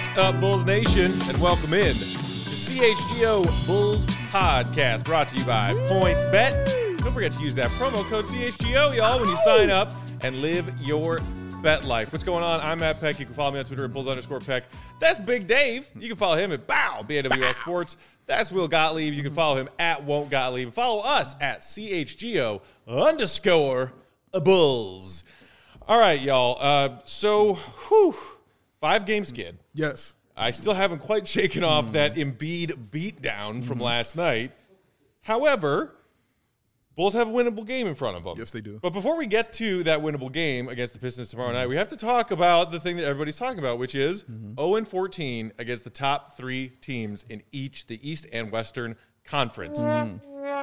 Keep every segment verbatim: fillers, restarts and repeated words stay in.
What up, Bulls Nation, and welcome in to C H G O Bulls Podcast, brought to you by PointsBet. Don't forget to use that promo code C H G O, y'all, when you sign up and live your bet life. What's going on? I'm Matt Peck. You can follow me on Twitter at Bulls underscore Peck. That's Big Dave. You can follow him at Bow, B A W L Sports. That's Will Gottlieb. You can follow him at Won't Gottlieb. Follow us at C H G O underscore Bulls. All right, y'all. Uh, so, whew, five-game skid. Yes. I still haven't quite shaken off mm. that Embiid beatdown from mm. last night. However, Bulls have a winnable game in front of them. Yes, they do. But before we get to that winnable game against the Pistons tomorrow mm. night, we have to talk about the thing that everybody's talking about, which is mm-hmm. oh and fourteen against the top three teams in each the East and Western Conference. Mm.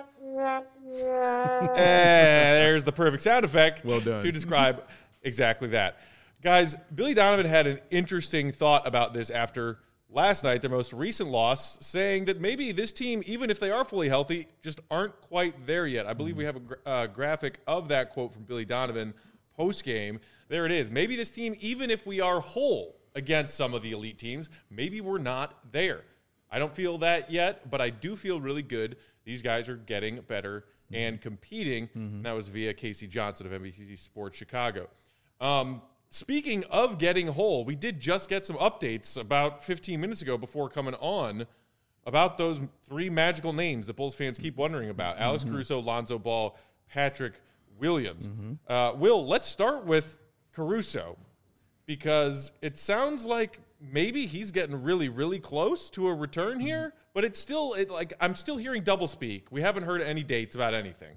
And there's the perfect sound effect well done. to describe exactly that. Guys, Billy Donovan had an interesting thought about this after last night, their most recent loss, saying that maybe this team, even if they are fully healthy, just aren't quite there yet. I believe we have a gra- uh, graphic of that quote from Billy Donovan post-game. There it is. Maybe this team, even if we are whole against some of the elite teams, maybe we're not there. I don't feel that yet, but I do feel really good. These guys are getting better mm-hmm. and competing. Mm-hmm. And that was via Casey Johnson of N B C Sports Chicago. Um, speaking of getting whole, we did just get some updates about fifteen minutes ago before coming on about those three magical names that Bulls fans keep wondering about. Mm-hmm. Alex Caruso, Lonzo Ball, Patrick Williams. Mm-hmm. Uh, Will, let's start with Caruso because it sounds like maybe he's getting really, really close to a return mm-hmm. here, but it's still it, like I'm still hearing doublespeak. We haven't heard any dates about anything.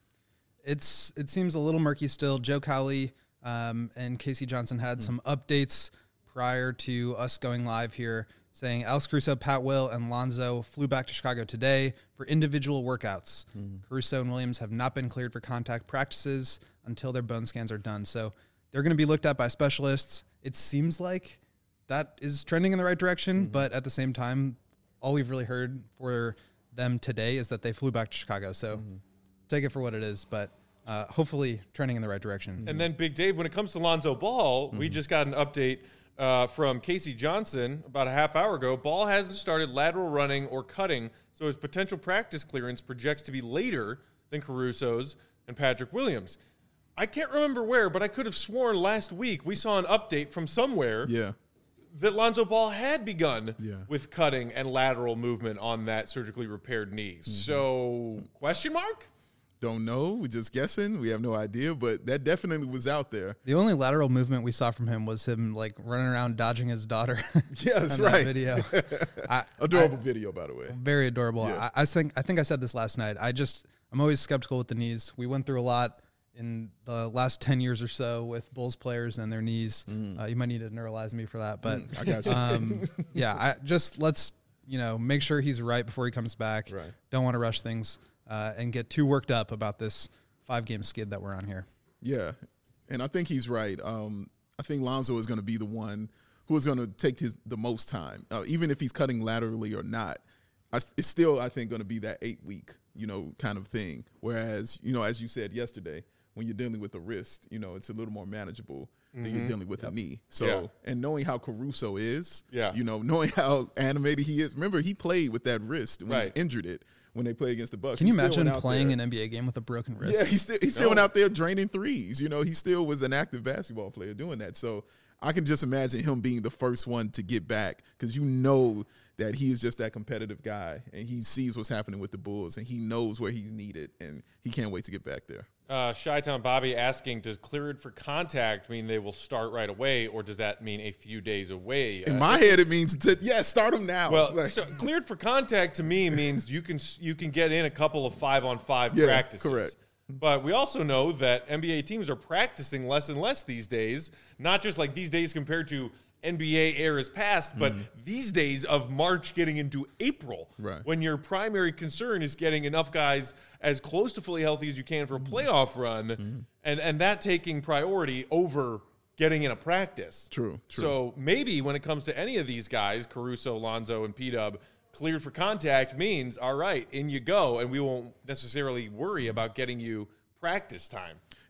It's It seems a little murky still. Joe Cowley Um, and Casey Johnson had mm. some updates prior to us going live here saying Alex Caruso, Pat Will, and Lonzo flew back to Chicago today for individual workouts. Mm. Caruso and Williams have not been cleared for contact practices until their bone scans are done. So they're going to be looked at by specialists. It seems like that is trending in the right direction, mm-hmm. but at the same time, all we've really heard for them today is that they flew back to Chicago. So mm-hmm. take it for what it is, but Uh, hopefully trending in the right direction. And then Big Dave, when it comes to Lonzo Ball, mm-hmm. we just got an update uh, from Casey Johnson about a half hour ago. Ball hasn't started lateral running or cutting, so his potential practice clearance projects to be later than Caruso's and Patrick Williams. I can't remember where, but I could have sworn last week we saw an update from somewhere yeah. that Lonzo Ball had begun yeah. with cutting and lateral movement on that surgically repaired knee. Mm-hmm. So, question mark? Don't know. We're just guessing. We have no idea, but that definitely was out there. The only lateral movement we saw from him was him like running around dodging his daughter. Yeah, that's right. Video. I, adorable I, video, by the way. Very adorable. Yeah. I, I think I think I said this last night. I just I'm always skeptical with the knees. We went through a lot in the last ten years or so with Bulls players and their knees. Mm. Uh, you might need to neuralize me for that, but mm, I got you. Um, yeah, I just let's you know make sure he's right before he comes back. Right. Don't want to rush things. Uh, and get too worked up about this five-game skid that we're on here. Yeah, and I think he's right. Um, I think Lonzo is going to be the one who is going to take his the most time, uh, even if he's cutting laterally or not. I, it's still, I think, going to be that eight-week, you know, kind of thing. Whereas, you know, as you said yesterday, when you're dealing with a wrist, you know, it's a little more manageable mm-hmm. than you're dealing with yep. a knee. So, yeah. and knowing how Caruso is, yeah. you know, knowing how animated he is. Remember, he played with that wrist when right. he injured it. When they play against the Bucks. Can you he imagine playing there. an N B A game with a broken wrist? Yeah, he still he still no. went out there draining threes. You know, he still was an active basketball player doing that. So I can just imagine him being the first one to get back because you know that he is just that competitive guy and he sees what's happening with the Bulls and he knows where he's needed and he can't wait to get back there. Uh, Chi-Town Bobby asking, does cleared for contact mean they will start right away, or does that mean a few days away? In uh, my head, it means, to, yeah, start them now. Well, like, so cleared for contact to me means you can you can get in a couple of five-on-five yeah, practices. Correct. But we also know that N B A teams are practicing less and less these days, not just like these days compared to N B A eras past, but mm-hmm. these days of March getting into April, right. when your primary concern is getting enough guys as close to fully healthy as you can for a playoff run, mm-hmm. and, and that taking priority over getting in a practice. True, true. So maybe when it comes to any of these guys, Caruso, Lonzo, and P-Dub, cleared for contact means, all right, in you go, and we won't necessarily worry about getting you practice time.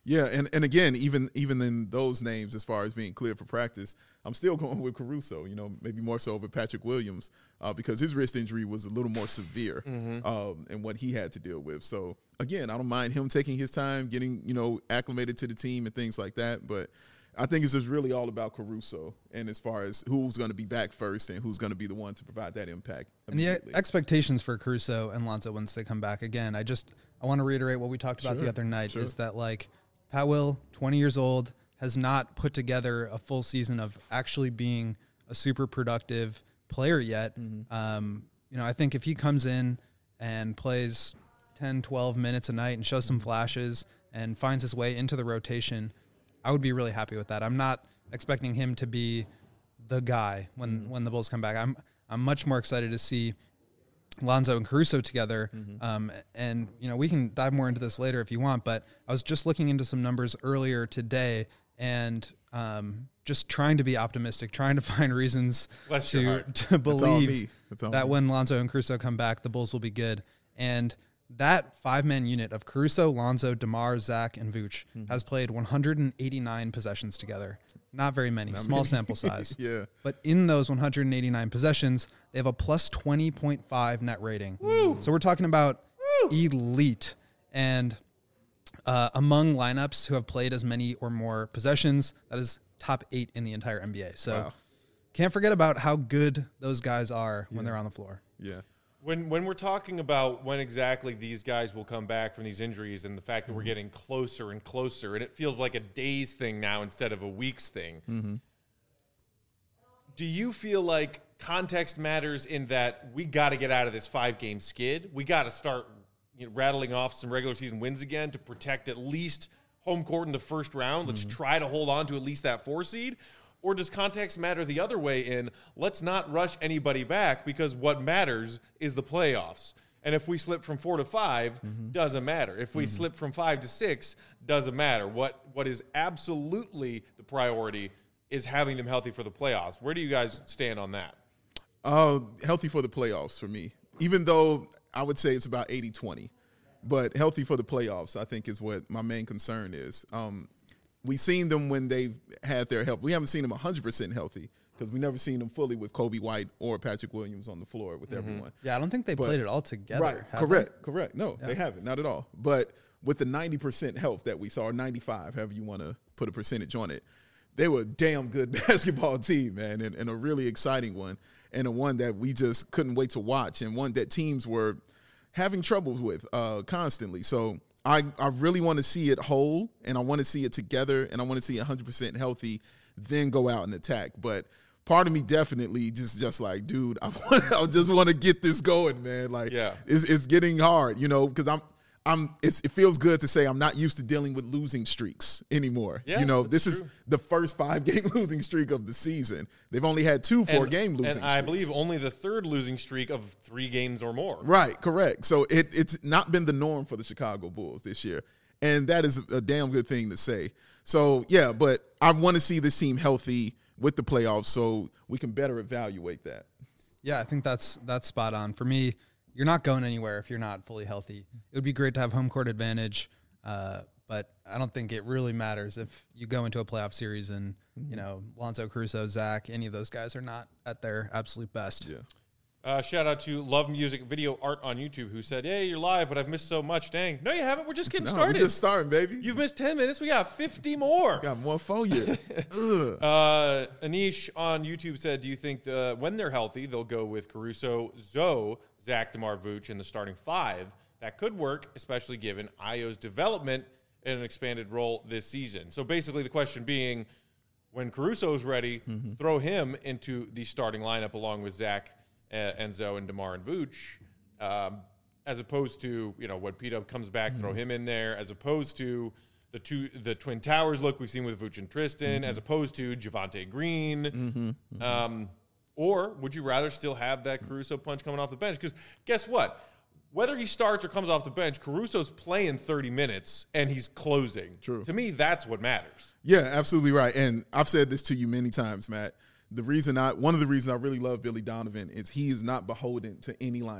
Yeah, and, and again, even even in those names, as far as being cleared for practice, I'm still going with Caruso, you know, maybe more so over Patrick Williams uh, because his wrist injury was a little more severe mm-hmm. um, and what he had to deal with. So, again, I don't mind him taking his time, getting, you know, acclimated to the team and things like that. But I think it's just really all about Caruso and as far as who's going to be back first and who's going to be the one to provide that impact. And the expectations for Caruso and Lonzo once they come back, again, I just I want to reiterate what we talked about sure, the other night sure. is that, like, Pat Will, twenty years old, has not put together a full season of actually being a super productive player yet. Mm-hmm. Um, you know, I think if he comes in and plays ten, twelve minutes a night and shows some flashes and finds his way into the rotation, I would be really happy with that. I'm not expecting him to be the guy when, mm-hmm. when the Bulls come back. I'm I'm much more excited to see Lonzo and Caruso together. Mm-hmm. Um, and, you know, we can dive more into this later if you want, but I was just looking into some numbers earlier today and um, just trying to be optimistic, trying to find reasons to, to believe that me. when Lonzo and Caruso come back, the Bulls will be good. And that five-man unit of Caruso, Lonzo, DeMar, Zach, and Vooch mm-hmm. has played one hundred eighty-nine possessions together. Not very many, Not small many. sample size. yeah. But in those one hundred eighty-nine possessions, they have a plus twenty point five net rating. Woo. So we're talking about Woo. elite. And uh, among lineups who have played as many or more possessions, that is top eight in the entire N B A. So wow. can't forget about how good those guys are when yeah. they're on the floor. Yeah. When when we're talking about when exactly these guys will come back from these injuries and the fact that mm-hmm. we're getting closer and closer, and it feels like a days thing now instead of a weeks thing, mm-hmm. do you feel like context matters in that we got to get out of this five-game skid? We got to start you know, rattling off some regular season wins again to protect at least home court in the first round? Let's mm-hmm. try to hold on to at least that four seed. Or does context matter the other way in let's not rush anybody back because what matters is the playoffs. And if we slip from four to five, mm-hmm. doesn't matter. If we mm-hmm. slip from five to six, doesn't matter. What What is absolutely the priority is having them healthy for the playoffs. Where do you guys stand on that? Uh, healthy for the playoffs for me. Even though I would say it's about eighty twenty. But healthy for the playoffs, I think, is what my main concern is. Um We've seen them when they've had their health. We haven't seen them one hundred percent healthy because we've never seen them fully with Kobe White or Patrick Williams on the floor with mm-hmm. everyone. Yeah, I don't think they but, played it all together. Right, correct, they? correct. No, yeah. they haven't, not at all. But with the ninety percent health that we saw, or ninety-five, however you want to put a percentage on it, they were a damn good basketball team, man, and, and a really exciting one, and a one that we just couldn't wait to watch, and one that teams were having troubles with uh, constantly. So I, I really want to see it whole, and I want to see it together, and I want to see it one hundred percent healthy, then go out and attack. But part of me definitely just just like, dude, I, want, I just want to get this going, man. Like, yeah. it's, it's getting hard, you know, because I'm I'm. It's, it feels good to say I'm not used to dealing with losing streaks anymore. Yeah, you know, this true. is the first five-game losing streak of the season. They've only had two four-game losing and streaks. I believe only the third losing streak of three games or more. Right, correct. So it, it's not been the norm for the Chicago Bulls this year, and that is a damn good thing to say. So, yeah, but I want to see this team healthy with the playoffs so we can better evaluate that. Yeah, I think that's that's spot on. For me, you're not going anywhere if you're not fully healthy. It would be great to have home court advantage, uh, but I don't think it really matters if you go into a playoff series and, mm-hmm. you know, Lonzo, Caruso, Zach, any of those guys are not at their absolute best. Yeah. Uh, shout out to Love Music Video Art on YouTube who said, hey, you're live, but I've missed so much. Dang. No, you haven't. We're just getting no, started. We're just starting, baby. You've missed ten minutes. We got fifty more. We got more for you. uh, Anish on YouTube said, do you think the, when they're healthy, they'll go with Caruso, Zoe, Zach, DeMar, Vooch in the starting five? That could work, especially given Ayo's development in an expanded role this season. So basically the question being, when Caruso's ready, mm-hmm. throw him into the starting lineup along with Zach, Enzo, and DeMar and Vooch, um, as opposed to, you know, when P-Dub comes back, mm-hmm. throw him in there, as opposed to the two the Twin Towers look we've seen with Vooch and Tristan, mm-hmm. as opposed to Javonte Green. Mm-hmm. Mm-hmm. Um, or would you rather still have that Caruso punch coming off the bench? Because guess what? Whether he starts or comes off the bench, Caruso's playing thirty minutes, and he's closing. True. To me, that's what matters. Yeah, absolutely right. And I've said this to you many times, Matt. The reason I, one of the reasons I really love Billy Donovan is he is not beholden to any lineup.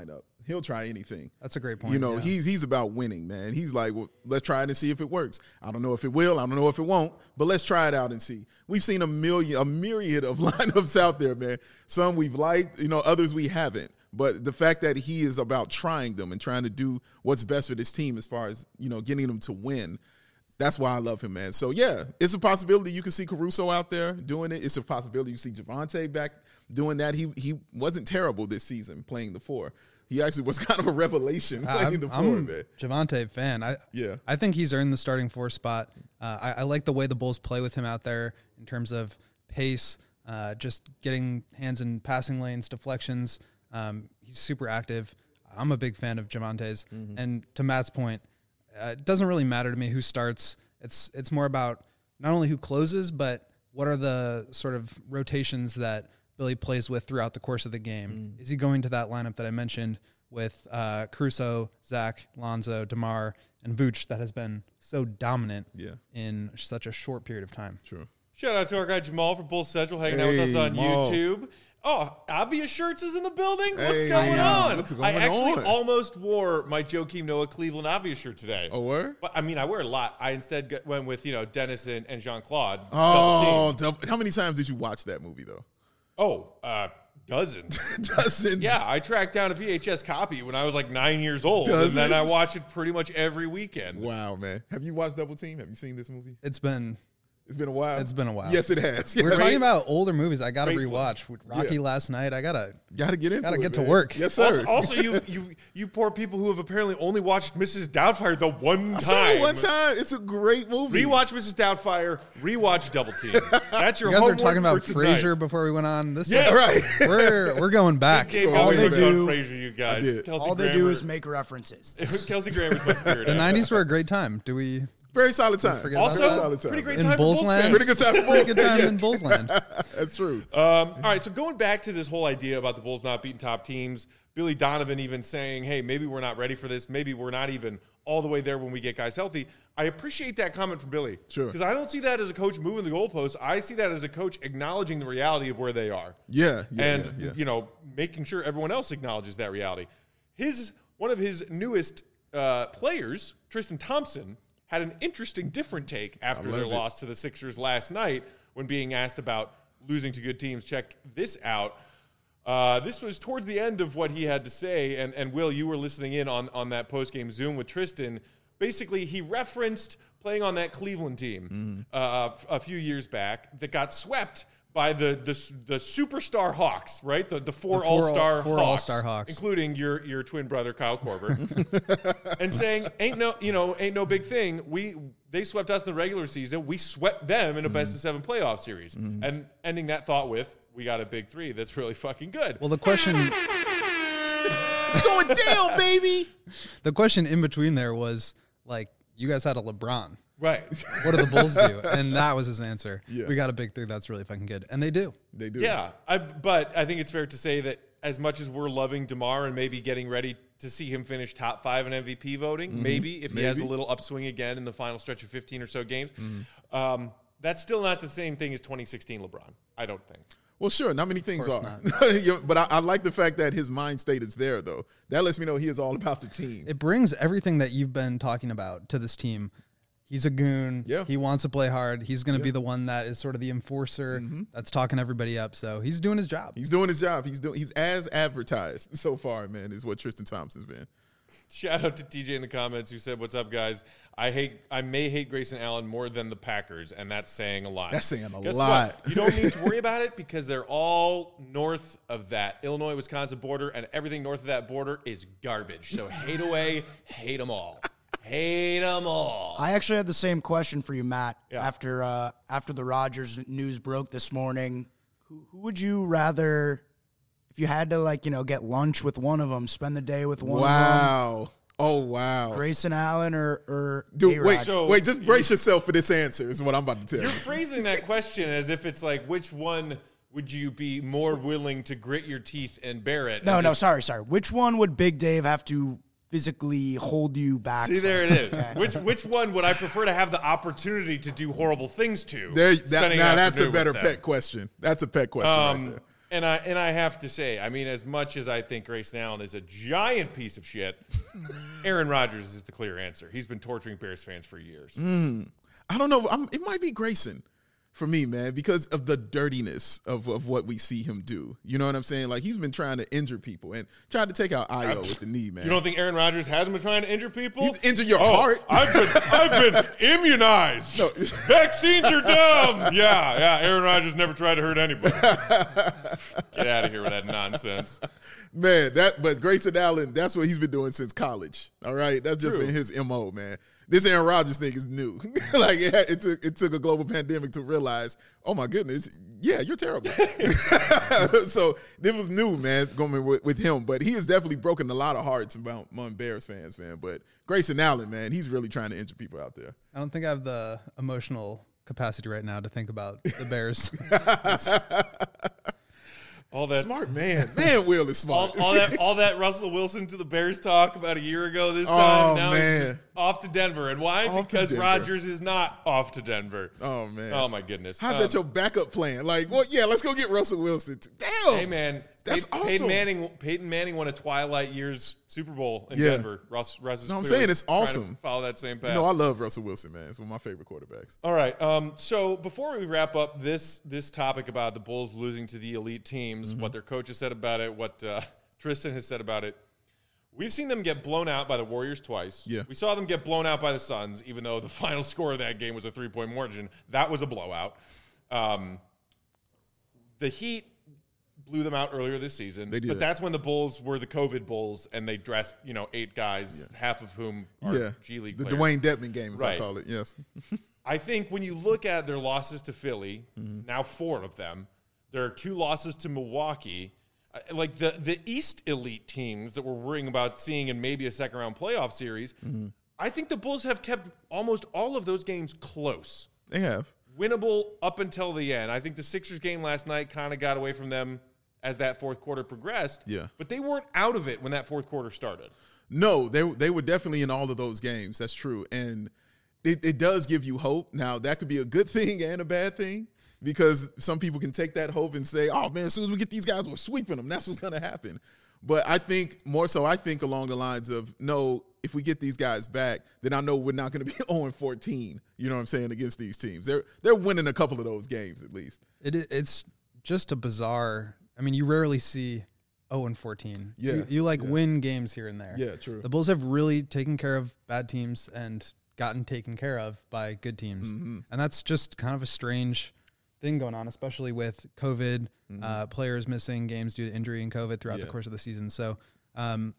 he'll try anything. That's a great point. You know, yeah. he's he's about winning, man. He's like, well, let's try it and see if it works. I don't know if it will. I don't know if it won't, but let's try it out and see. We've seen a million, a myriad of lineups out there, man. Some we've liked, you know, others we haven't. But the fact that he is about trying them and trying to do what's best for this team as far as, you know, getting them to win, that's why I love him, man. So, yeah, it's a possibility you can see Caruso out there doing it. It's a possibility you see Javonte back doing that. He he wasn't terrible this season playing the four. He actually was kind of a revelation playing I'm, the four, I'm man. Javonte fan. I Yeah. I think he's earned the starting four spot. Uh, I, I like the way the Bulls play with him out there in terms of pace, uh, just getting hands in passing lanes, deflections. Um, he's super active. I'm a big fan of Javonte's. Mm-hmm. And to Matt's point, uh, it doesn't really matter to me who starts. It's it's more about not only who closes, but what are the sort of rotations that Billy plays with throughout the course of the game. Mm. Is he going to that lineup that I mentioned with uh, Caruso, Zach, Lonzo, DeMar, and Vooch that has been so dominant yeah. in such a short period of time? True. Shout out to our guy Jamal from Bulls Central hanging out with Hey, us on Jamal. YouTube. Oh, Obvious Shirts is in the building. What's Hey, going on? what's going I actually on? almost wore my Joakim Noah Cleveland Obvious shirt today. Oh, word? But I mean, I wear a lot. I instead got, went with, you know, Dennis and, and Jean-Claude. Oh, double, how many times did you watch that movie, though? Oh, uh, dozens. Dozens. Yeah, I tracked down a V H S copy when I was like nine years old. Dozens? And then I watch it pretty much every weekend. Wow, man. Have you watched Double Team? Have you seen this movie? It's been It's been a while. It's been a while. Yes, it has. We're Yes. talking about older movies. I got to Great rewatch Rocky Yeah. last night. I gotta Gotta get into gotta it, get to man. work. Yes, sir. Also, also you, you you poor people who have apparently only watched Missus Doubtfire the one I time. saw it one time. It's a great movie. Rewatch Missus Doubtfire. Rewatch Double Team. That's your You guys were homework talking about for tonight. Frasier before we went on. This Yes. is- Right. we're we're going back. Game All always they looked do- on Frasier, you guys. did. Kelsey All they Grammer. do is make references. Kelsey Grammer's my spirit. The animal. nineties were a great time. Do we? Very solid time. forget about Also, Very solid time. pretty great In time for Bulls Bulls land? fans. Pretty good time for Pretty Bulls. good time Yeah. in Bulls land. That's true. Um, all right, so going back to this whole idea about the Bulls not beating top teams, Billy Donovan even saying, hey, maybe we're not ready for this. Maybe we're not even all the way there when we get guys healthy. I appreciate that comment from Billy. Sure. Because I don't see that as a coach moving the goalposts. I see that as a coach acknowledging the reality of where they are. Yeah, yeah, and, yeah, yeah. you know, making sure everyone else acknowledges that reality. His One of his newest uh, players, Tristan Thompson, had an interesting, different take after love their it. loss to the Sixers last night when being asked about losing to good teams. Check this out. Uh, this was towards the end of what he had to say, and, and Will, you were listening in on, on that post-game Zoom with Tristan. Basically, he referenced playing on that Cleveland team Mm-hmm. uh, a few years back that got swept by the the, the superstar Hawks, right? The the four, The four all-star all- four Hawks, all-star Hawks. including your your twin brother Kyle Korver, and saying ain't no you know ain't no big thing. We they swept us in the regular season. We swept them in a best of seven playoff series, and ending that thought with we got a big three. That's really fucking good. Well, the question It's going down, baby. the question in between there was like, you guys had a LeBron. Right. What do the Bulls do? And that was his answer. Yeah. We got a big three. That's really fucking good. And they do. They do. Yeah, I, but I think it's fair to say that as much as we're loving DeMar and maybe getting ready to see him finish top five in M V P voting, maybe if he has a Maybe. little upswing again in the final stretch of fifteen or so games, um, that's still not the same thing as twenty sixteen LeBron, I don't think. Well, sure. Not many things course are. Yeah, but I, I like the fact that his mind state is there, though. That lets me know he is all about the team. It brings everything that you've been talking about to this team. He's a goon. Yeah. He wants to play hard. He's going to be the one that is sort of the enforcer that's talking everybody up. So he's doing his job. He's doing his job. He's doing. He's as advertised so far, man. Is what Tristan Thompson's been. Shout out to T J in the comments who said, "What's up, guys? I hate, I may hate Grayson Allen more than the Packers, and that's saying a lot. That's saying a Guess lot. What? You don't need to worry about it because they're all north of that Illinois-Wisconsin border, and everything north of that border is garbage. So hate away, hate them all, hate them all. I actually had the same question for you, Matt. Yeah. After uh, after the Rodgers news broke this morning, who, who would you rather, if you had to like you know get lunch with one of them, spend the day with one of Wow. Oh wow. them, Grayson Allen or or Dude, A-Rod? wait, So- wait. Just brace yourself for this answer. Is what I'm about to tell You're you. phrasing that question as if it's like, which one would you be more willing to grit your teeth and bear it? No, and no, just- sorry, sorry. Which one would Big Dave have to physically hold you back? See, from? there it is. Which which one would I prefer to have the opportunity to do horrible things to? There, that, spending now an that's a afternoon better with them? pet question. That's a pet question Um, right there. And I and I have to say, I mean, as much as I think Grayson Allen is a giant piece of shit, Aaron Rodgers is the clear answer. He's been torturing Bears fans for years. Mm. I don't know. I'm, it might be Grayson for me, man, because of the dirtiness of, of what we see him do. You know what I'm saying? Like, he's been trying to injure people and tried to take out Io with the knee, man. You don't think Aaron Rodgers hasn't been trying to injure people? He's injured your oh, heart. I've been, I've been immunized. No. Vaccines are dumb. Yeah, yeah. Aaron Rodgers never tried to hurt anybody. Get out of here with that nonsense. Man, that but Grayson Allen, that's what he's been doing since college. All right? That's just True. been his M O, man. This Aaron Rodgers thing is new. like it, had, it took it took a global pandemic to realize, oh my goodness, yeah, you're terrible. So it was new, man, going with, with him. But he has definitely broken a lot of hearts about, among Bears fans, man. But Grayson Allen, man, he's really trying to injure people out there. I don't think I have the emotional capacity right now to think about the Bears. All that smart man, man, Will is smart. All, all that, all that Russell Wilson to the Bears talk about a year ago. This Oh, time, now man. he's just off to Denver, and why? Off to Because Denver. Rodgers is not off to Denver. Oh man, Oh my goodness. how's Um, that your backup plan? Like, well, yeah, let's go get Russell Wilson. Damn, Hey man, That's Pey- awesome. Peyton Manning. Peyton Manning won a Twilight Years Super Bowl in Yeah. Denver. Russ, Russ is No, I'm clearly saying it's trying to awesome. Follow that same path. You know, I love Russell Wilson, man. It's one of my favorite quarterbacks. All right. Um, so before we wrap up this this topic about the Bulls losing to the elite teams, Mm-hmm. what their coaches said about it, what uh, Tristan has said about it, we've seen them get blown out by the Warriors twice. Yeah. We saw them get blown out by the Suns, even though the final score of that game was a three-point margin. That was a blowout. Um, the Heat blew them out earlier this season. They did. But that's when the Bulls were the COVID Bulls, and they dressed, you know, eight guys, half of whom are Yeah, G League the players. Dwayne Dedman game, as I Right. call it. Yes. I think when you look at their losses to Philly, Mm-hmm. now four of them, there are two losses to Milwaukee. Uh, Like the, the East elite teams that we're worrying about seeing in maybe a second round playoff series, Mm-hmm. I think the Bulls have kept almost all of those games close. They have. Winnable up until the end. I think the Sixers game last night kind of got away from them as that fourth quarter progressed. Yeah. But they weren't out of it when that fourth quarter started. No, they they were definitely in all of those games. That's true, and it, it does give you hope. Now that could be a good thing and a bad thing because some people can take that hope and say, "Oh man, as soon as we get these guys, we're sweeping them. That's what's going to happen." But I think more so, I think along the lines of no. If we get these guys back, then I know we're not going to be oh and fourteen. You know what I'm saying against these teams. They're they're winning a couple of those games at least. It i- it's just a bizarre. I mean, you rarely see oh and fourteen. Yeah, you, you like yeah. win games here and there. Yeah, true. The Bulls have really taken care of bad teams and gotten taken care of by good teams, Mm-hmm. and that's just kind of a strange thing going on, especially with COVID, Mm-hmm. uh, players missing games due to injury and COVID throughout Yeah. the course of the season. So, um,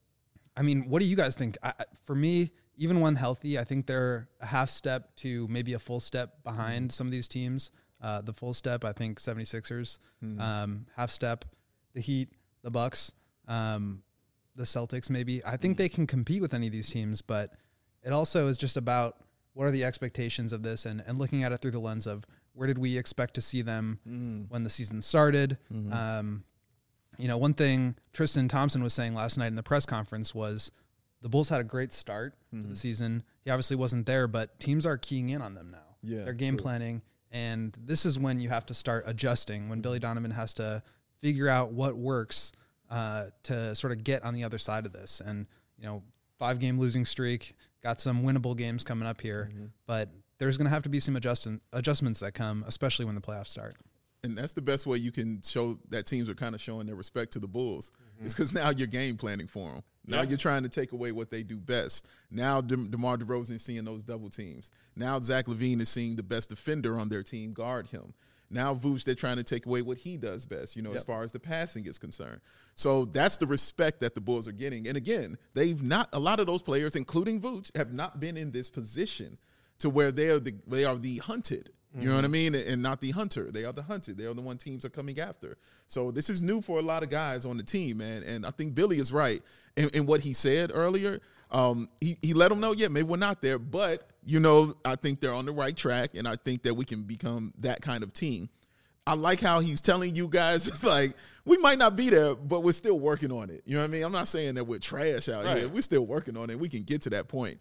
I mean, what do you guys think? I, I- for me, even when healthy, I think they're a half step to maybe a full step behind some of these teams. Uh, the full step, I think, seventy-sixers, um, half step, the Heat, the Bucks, um, the Celtics maybe. I think they can compete with any of these teams, but it also is just about what are the expectations of this and, and looking at it through the lens of where did we expect to see them when the season started. Um, you know, one thing Tristan Thompson was saying last night in the press conference was the Bulls had a great start to the season. He obviously wasn't there, but teams are keying in on them now. Yeah, They're game true. planning, and this is when you have to start adjusting, when Billy Donovan has to figure out what works uh, to sort of get on the other side of this. And, you know, five-game losing streak, got some winnable games coming up here, but there's going to have to be some adjust- adjustments that come, especially when the playoffs start. And that's the best way you can show that teams are kind of showing their respect to the Bulls. It's because now you're game planning for them. Now Yeah. you're trying to take away what they do best. Now De- DeMar DeRozan is seeing those double teams. Now Zach LaVine is seeing the best defender on their team guard him. Now Vooch, they're trying to take away what he does best, you know, as far as the passing is concerned. So that's the respect that the Bulls are getting. And again, they've not, a lot of those players, including Vooch, have not been in this position to where they are the, they are the hunted. You know what I mean? And not the hunter. They are the hunted. They are the one teams are coming after. So this is new for a lot of guys on the team, man. And I think Billy is right in, in what he said earlier. Um, he, he let them know, yeah, maybe we're not there. But, you know, I think they're on the right track. And I think that we can become that kind of team. I like how he's telling you guys, it's like, we might not be there, but we're still working on it. You know what I mean? I'm not saying that we're trash out Right. here. We're still working on it. We can get to that point.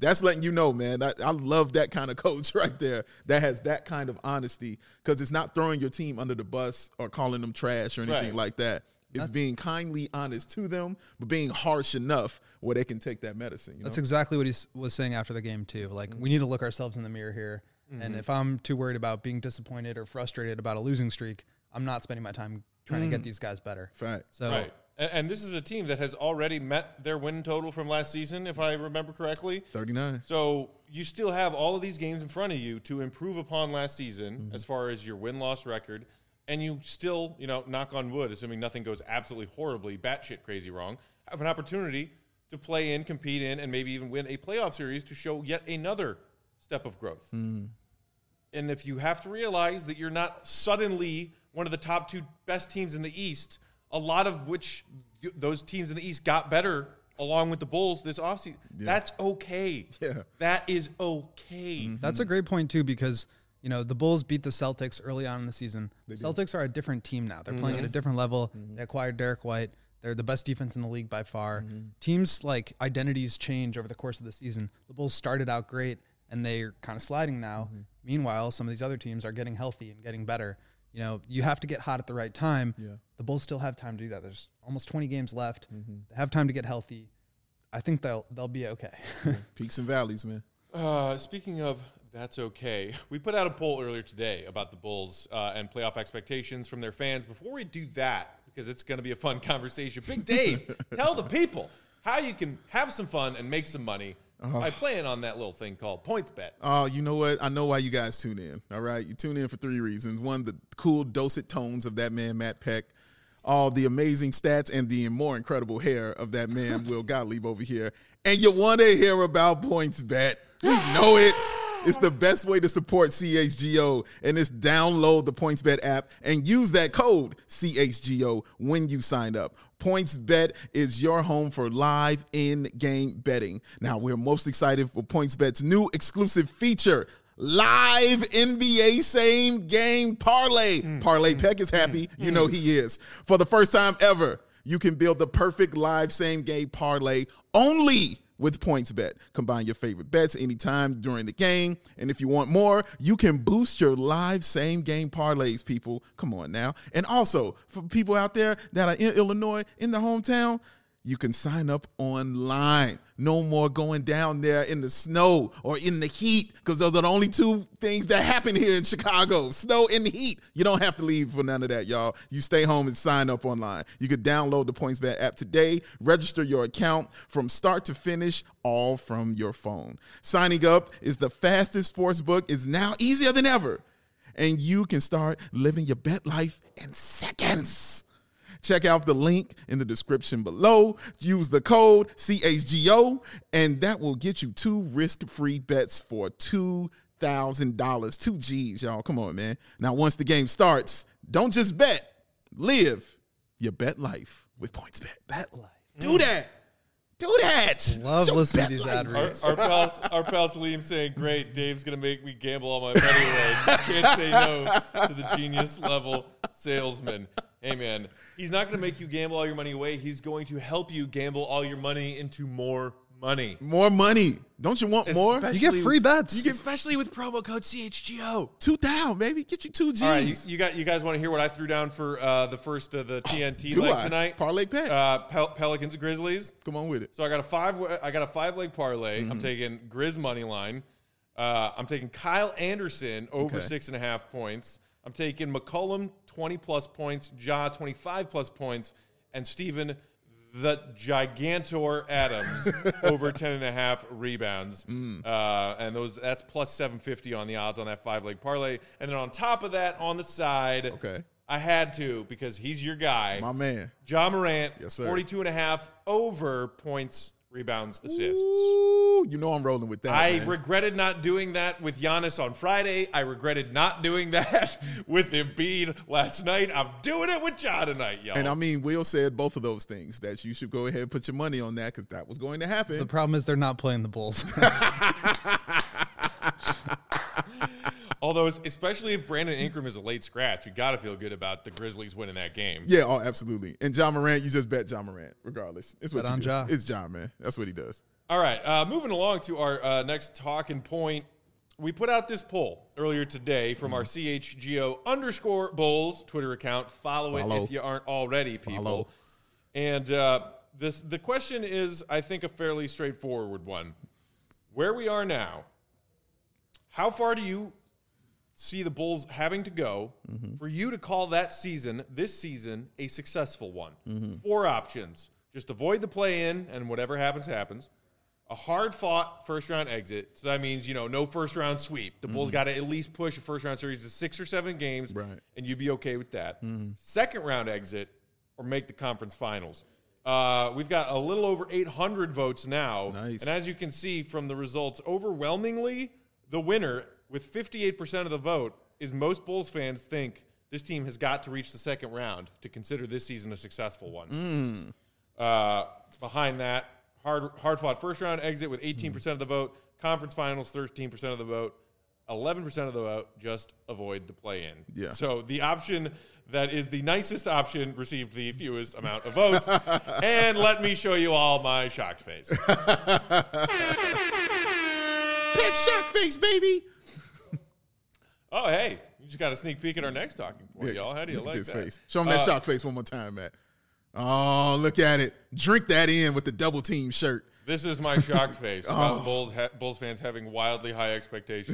That's letting you know, man. I, I love that kind of coach right there that has that kind of honesty, because it's not throwing your team under the bus or calling them trash or anything Right. like that. It's being kindly honest to them, but being harsh enough where they can take that medicine. You That's know? exactly what he s- was saying after the game too. Like we need to look ourselves in the mirror here. Mm-hmm. And if I'm too worried about being disappointed or frustrated about a losing streak, I'm not spending my time trying to get these guys better. Fact. So Right. And, and this is a team that has already met their win total from last season, if I remember correctly. thirty-nine. So you still have all of these games in front of you to improve upon last season Mm-hmm. as far as your win-loss record. And you still, you know, knock on wood, assuming nothing goes absolutely horribly batshit crazy wrong, have an opportunity to play in, compete in, and maybe even win a playoff series to show yet another step of growth. Mm. And if you have to realize that you're not suddenly one of the top two best teams in the East, a lot of which you- those teams in the East got better along with the Bulls this offseason, that's okay. Yeah. That is okay. that's a great point too, because you know the Bulls beat the Celtics early on in the season. The Celtics are a different team now. They're playing at a different level. They acquired Derek White. They're the best defense in the league by far. Teams like identities change over the course of the season. The Bulls started out great and they're kind of sliding now. Meanwhile, some of these other teams are getting healthy and getting better. You know, you have to get hot at the right time. Yeah. The Bulls still have time to do that. There's almost twenty games left. They have time to get healthy. I think they'll they'll be okay. Peaks and valleys, man. Uh, speaking of that's okay, we put out a poll earlier today about the Bulls uh, and playoff expectations from their fans. Before we do that, because it's going to be a fun conversation, Big Dave, tell the people how you can have some fun and make some money by playing on that little thing called PointsBet. Oh, you know what? I know why you guys tune in. All right, you tune in for three reasons. One, the cool dulcet tones of that man Matt Peck, all the amazing stats, and the more incredible hair of that man Will Gottlieb over here. And you want to hear about PointsBet? We know it. It's the best way to support C H G O, and it's download the PointsBet app and use that code C H G O when you sign up. PointsBet is your home for live in-game betting. Now, we're most excited for PointsBet's new exclusive feature, Live N B A Same Game Parlay. Mm. Parlay Peck is happy. Mm. You know he is. For the first time ever, you can build the perfect live same game parlay only with PointsBet. Combine your favorite bets anytime during the game. And if you want more, you can boost your live same game parlays, people. Come on now. And also, for people out there that are in Illinois, in the hometown, you can sign up online. No more going down there in the snow or in the heat, because those are the only two things that happen here in Chicago, snow and heat. You don't have to leave for none of that, y'all. You stay home and sign up online. You could download the PointsBet app today, register your account from start to finish, all from your phone. Signing up is the fastest sports book. It's now easier than ever, and you can start living your bet life in seconds. Check out the link in the description below. Use the code C H G O, and that will get you two risk-free bets for two thousand dollars. Two G's, y'all. Come on, man. Now, once the game starts, don't just bet. Live your bet life with PointsBet. Bet life. Do that. Do that. Love So listening bet to these life. ad Our, reads. our pal, our pal Salim saying, "Great, Dave's gonna make me gamble all my money away. Just can't say no to the genius level salesman." Hey man, he's not gonna make you gamble all your money away. He's going to help you gamble all your money into more money. More money. Don't you want more? Especially- You get free bets. You get, especially with promo code C H G O. two thousand, baby. Get you two G's. All right, you, you got you guys want to hear what I threw down for uh, the first of the T N T Do leg I? tonight? Parlay Pack. Uh, Pel- Pelicans Grizzlies. Come on with it. So I got a five. I got a five leg parlay. Mm-hmm. I'm taking Grizz money line. Uh, I'm taking Kyle Anderson over Okay. six and a half points. I'm taking McCollum twenty plus points, Ja twenty-five plus points, and Steven the Gigantor Adams over ten and a half rebounds. Mm. Uh, and those that's plus seven fifty on the odds on that five leg parlay. And then on top of that, on the side, Okay. I had to because he's your guy. My man. Ja Morant, Yes, sir. forty-two and a half over points, rebounds, assists. Ooh, you know I'm rolling with that. I man. regretted not doing that with Giannis on Friday. I regretted not doing that with Embiid last night. I'm doing it with Ja tonight, y'all. And I mean, Will said both of those things, that you should go ahead and put your money on that, because that was going to happen. The problem is they're not playing the Bulls. Although, especially if Brandon Ingram is a late scratch, you got to feel good about the Grizzlies winning that game. Yeah, oh, absolutely. And Ja Morant, you just bet Ja Morant, regardless. It's what Bet you on do. Ja. It's Ja, man. That's what he does. All right, uh, moving along to our uh, next talking point. We put out this poll earlier today from mm-hmm. our C H G O underscore Bulls Twitter account. Follow, Follow it if you aren't already, people. Follow. And uh, this the question is, I think, a fairly straightforward one. Where we are now, how far do you see the Bulls having to go mm-hmm. for you to call that season, this season, a successful one? Mm-hmm. Four options. Just avoid the play-in and whatever happens, happens. A hard-fought first-round exit. So that means, you know, no first-round sweep. The Bulls mm-hmm. got to at least push a first-round series to six or seven games, right. and you'd be okay with that. Mm-hmm. Second-round exit or make the conference finals. Uh, we've got a little over eight hundred votes now. Nice. And as you can see from the results, overwhelmingly, the winner with fifty-eight percent of the vote is most Bulls fans think this team has got to reach the second round to consider this season a successful one. Mm. Uh, behind that, hard, hard-fought first-round exit with eighteen percent mm. of the vote, conference finals, thirteen percent of the vote, eleven percent of the vote, just avoid the play-in. Yeah. So the option that is the nicest option received the fewest amount of votes. And let me show you all my shocked face. Pet shock face, baby. Oh, hey. You just got a sneak peek at our next talking point, yeah, y'all. How do you like this that? Face. Show him that uh, shock face one more time, Matt. Oh, look at it. Drink that in with the double team shirt. This is my shocked face about oh. Bulls ha- Bulls fans having wildly high expectations.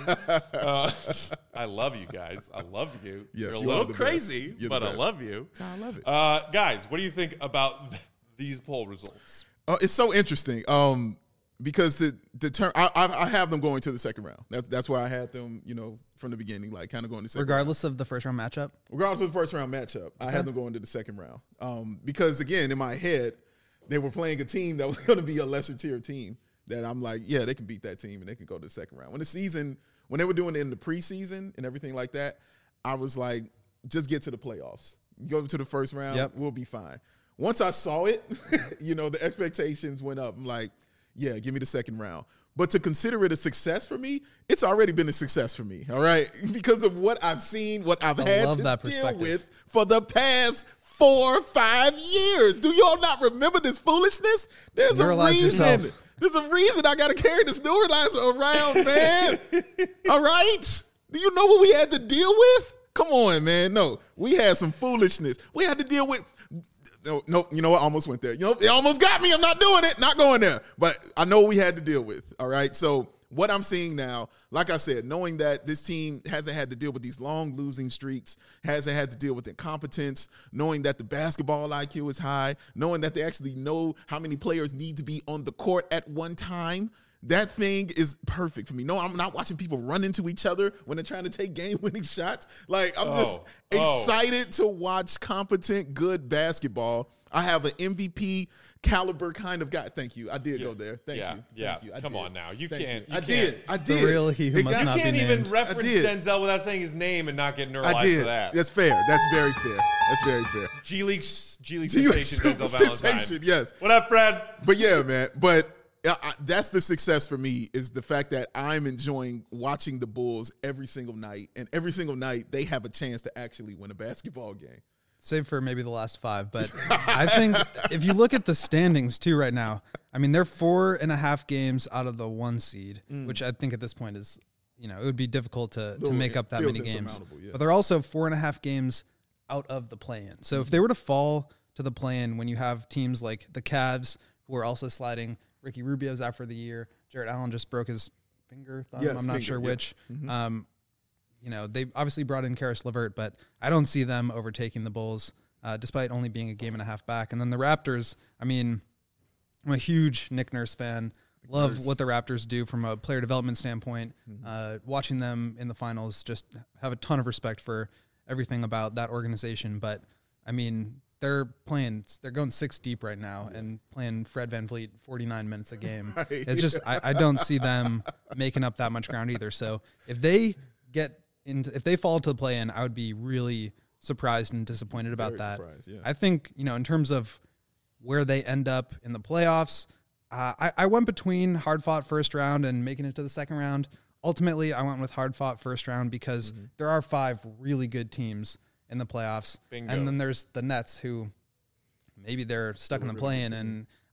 uh, I love you guys. I love you. Yes, You're a you little crazy, but I love you. I love it. Uh, guys, what do you think about th- these poll results? Uh, it's so interesting um, because the the term I, I, I have them going to the second round. That's that's why I had them, you know, from the beginning, like kind of going to the second regardless round. of the first round matchup. Regardless of the first round matchup, okay. I had them going to the second round um, because again, in my head, they were playing a team that was going to be a lesser tier team that I'm like, yeah, they can beat that team and they can go to the second round. When the season, when they were doing it in the preseason and everything like that, I was like, just get to the playoffs. Go to the first round, yep. We'll be fine. Once I saw it, you know, the expectations went up. I'm like, yeah, give me the second round. But to consider it a success for me, it's already been a success for me, all right? Because of what I've seen, what I've I had to deal with for the past four or five years. Do y'all not remember this foolishness? There's a reason. Yourself. There's a reason I got to carry this neuralizer around, man. All right? Do you know what we had to deal with? Come on, man. No, we had some foolishness. We had to deal with. No, no, you know what? I almost went there. You know, it almost got me. I'm not doing it. Not going there. But I know what we had to deal with. All right. So what I'm seeing now, like I said, knowing that this team hasn't had to deal with these long losing streaks, hasn't had to deal with incompetence, knowing that the basketball I Q is high, knowing that they actually know how many players need to be on the court at one time. That thing is perfect for me. No, I'm not watching people run into each other when they're trying to take game-winning shots. Like, I'm oh, just excited oh. to watch competent, good basketball. I have an M V P caliber kind of guy. Thank you. I did yeah. go there. Thank yeah. you. Yeah. Thank you. I Come did. on now. You Thank can't. You. You I can't. did. I did. The real he who it must got, not You can't be even named. reference Denzel without saying his name and not get neuralized I did. for that. That's fair. That's very fair. That's very fair. G League, G League sensation, Denzel sensation, Valentine. Yes. What up, Fred? But yeah, man. But I, I, that's the success for me is the fact that I'm enjoying watching the Bulls every single night, and every single night they have a chance to actually win a basketball game. Save for maybe the last five, but I think if you look at the standings too right now, I mean they're four and a half games out of the one seed, mm. which I think at this point is, you know, it would be difficult to, to make up that many games. Yeah. But they're also four and a half games out of the play-in. So mm. if they were to fall to the play-in when you have teams like the Cavs who are also sliding, Ricky Rubio's out for the year, Jarrett Allen just broke his finger, thumb, yes, I'm not finger, sure yes. which. Mm-hmm. Um, You know, they obviously brought in Karis LeVert, but I don't see them overtaking the Bulls, uh, despite only being a game and a half back. And then the Raptors, I mean, I'm a huge Nick Nurse fan. Love Nurse. What the Raptors do from a player development standpoint. Mm-hmm. Uh, watching them in the finals, just have a ton of respect for everything about that organization. But, I mean, they're playing, they're going six deep right now and playing Fred VanVleet forty-nine minutes a game. Right. It's just, I, I don't see them making up that much ground either. So if they get into, if they fall to the play-in, I would be really surprised and disappointed about Very that. Yeah. I think, you know, in terms of where they end up in the playoffs, uh, I, I went between hard-fought first round and making it to the second round. Ultimately, I went with hard-fought first round because mm-hmm. there are five really good teams in the playoffs. Bingo. And then there's the Nets who maybe they're stuck in the play-in, and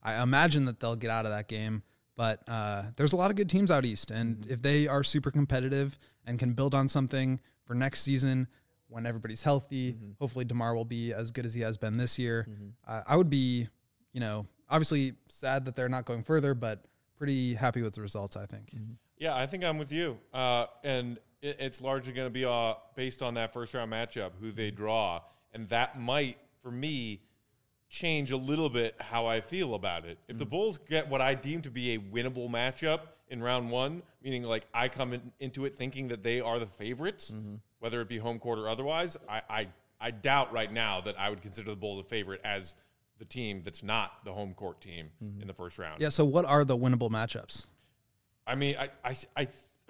I imagine that they'll get out of that game. But uh, there's a lot of good teams out east, and mm-hmm. if they are super competitive and can build on something for next season when everybody's healthy, mm-hmm. hopefully DeMar will be as good as he has been this year. Mm-hmm. Uh, I would be, you know, obviously sad that they're not going further, but pretty happy with the results, I think. Mm-hmm. Yeah, I think I'm with you. Uh, and it, it's largely going to be uh, based on that first-round matchup, who they draw. And that might, for me, change a little bit how I feel about it. If mm-hmm. the Bulls get what I deem to be a winnable matchup in round one, meaning like I come in, into it thinking that they are the favorites, mm-hmm. whether it be home court or otherwise, I, I, I doubt right now that I would consider the Bulls a favorite as the team that's not the home court team mm-hmm. in the first round. Yeah, so what are the winnable matchups? I mean, I, I, I,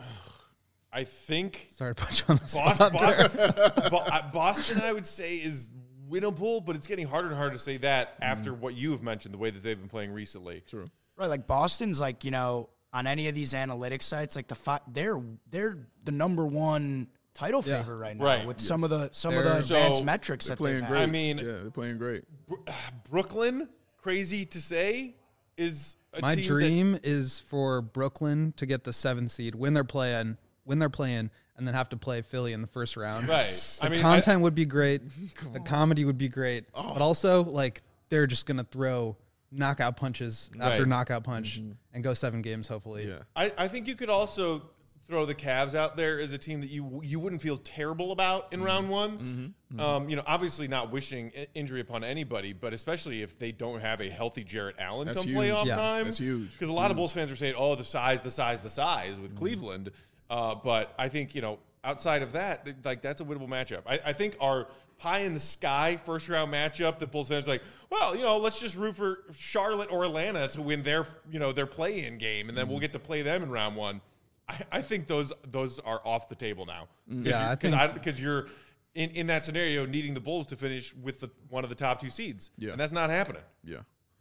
I think. Sorry to put you on the spot. Boston, Boston, Boston, I would say, is winnable, but it's getting harder and harder to say that mm. after what you have mentioned, the way that they've been playing recently. True. Right, like Boston's, like, you know, on any of these analytics sites, like the fi- they're they're the number one title yeah. favorite right now right. with yeah. some of the some they're, of the advanced so metrics that playing they've great. had. I mean, yeah, they're playing great. Brooklyn, crazy to say, is a my team dream that, is for Brooklyn to get the seventh seed when they're playing, when they're playing, and then have to play Philly in the first round. Right. The I mean, content I, would be great. The comedy would be great. Oh. But also, like, they're just gonna throw knockout punches right. after knockout punch mm-hmm. and go seven games, hopefully. Yeah. I, I think you could also throw the Cavs out there as a team that you you wouldn't feel terrible about in mm-hmm. round one. Mm-hmm. Mm-hmm. Um, you know, obviously not wishing injury upon anybody, but especially if they don't have a healthy Jarrett Allen That's come huge. playoff Yeah. time. That's huge. Because a lot mm-hmm. of Bulls fans are saying, oh, the size, the size, the size with mm-hmm. Cleveland. Uh, but I think, you know, outside of that, like that's a winnable matchup. I, I think our pie in the sky first round matchup that Bulls fans are like, well, you know, let's just root for Charlotte or Atlanta to win their, you know, their play-in game, and then mm-hmm. we'll get to play them in round one. I, I think those those are off the table now. Yeah, I think because you're in, in that scenario needing the Bulls to finish with the, one of the top two seeds, yeah. and that's not happening. Yeah,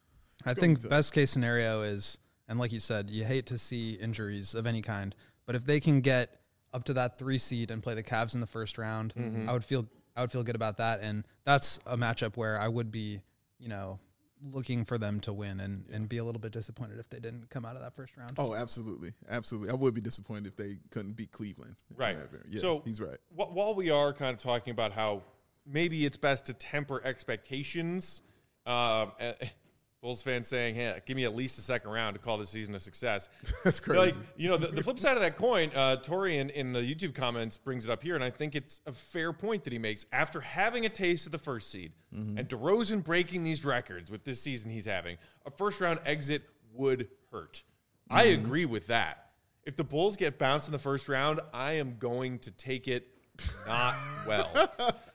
I think best case scenario is, and like you said, you hate to see injuries of any kind, but if they can get up to that three seed and play the Cavs in the first round, mm-hmm. I would feel I would feel good about that, and that's a matchup where I would be, you know, looking for them to win and, and be a little bit disappointed if they didn't come out of that first round. Oh, absolutely. Absolutely. I would be disappointed if they couldn't beat Cleveland. Right. Yeah, so he's right. Wh- while we are kind of talking about how maybe it's best to temper expectations, uh, Bulls fans saying, hey, give me at least a second round to call this season a success. That's crazy. Like, you know, the, the flip side of that coin, uh, Tori in, in the YouTube comments brings it up here, and I think it's a fair point that he makes. After having a taste of the first seed mm-hmm. and DeRozan breaking these records with this season he's having, a first-round exit would hurt. Mm-hmm. I agree with that. If the Bulls get bounced in the first round, I am going to take it not well.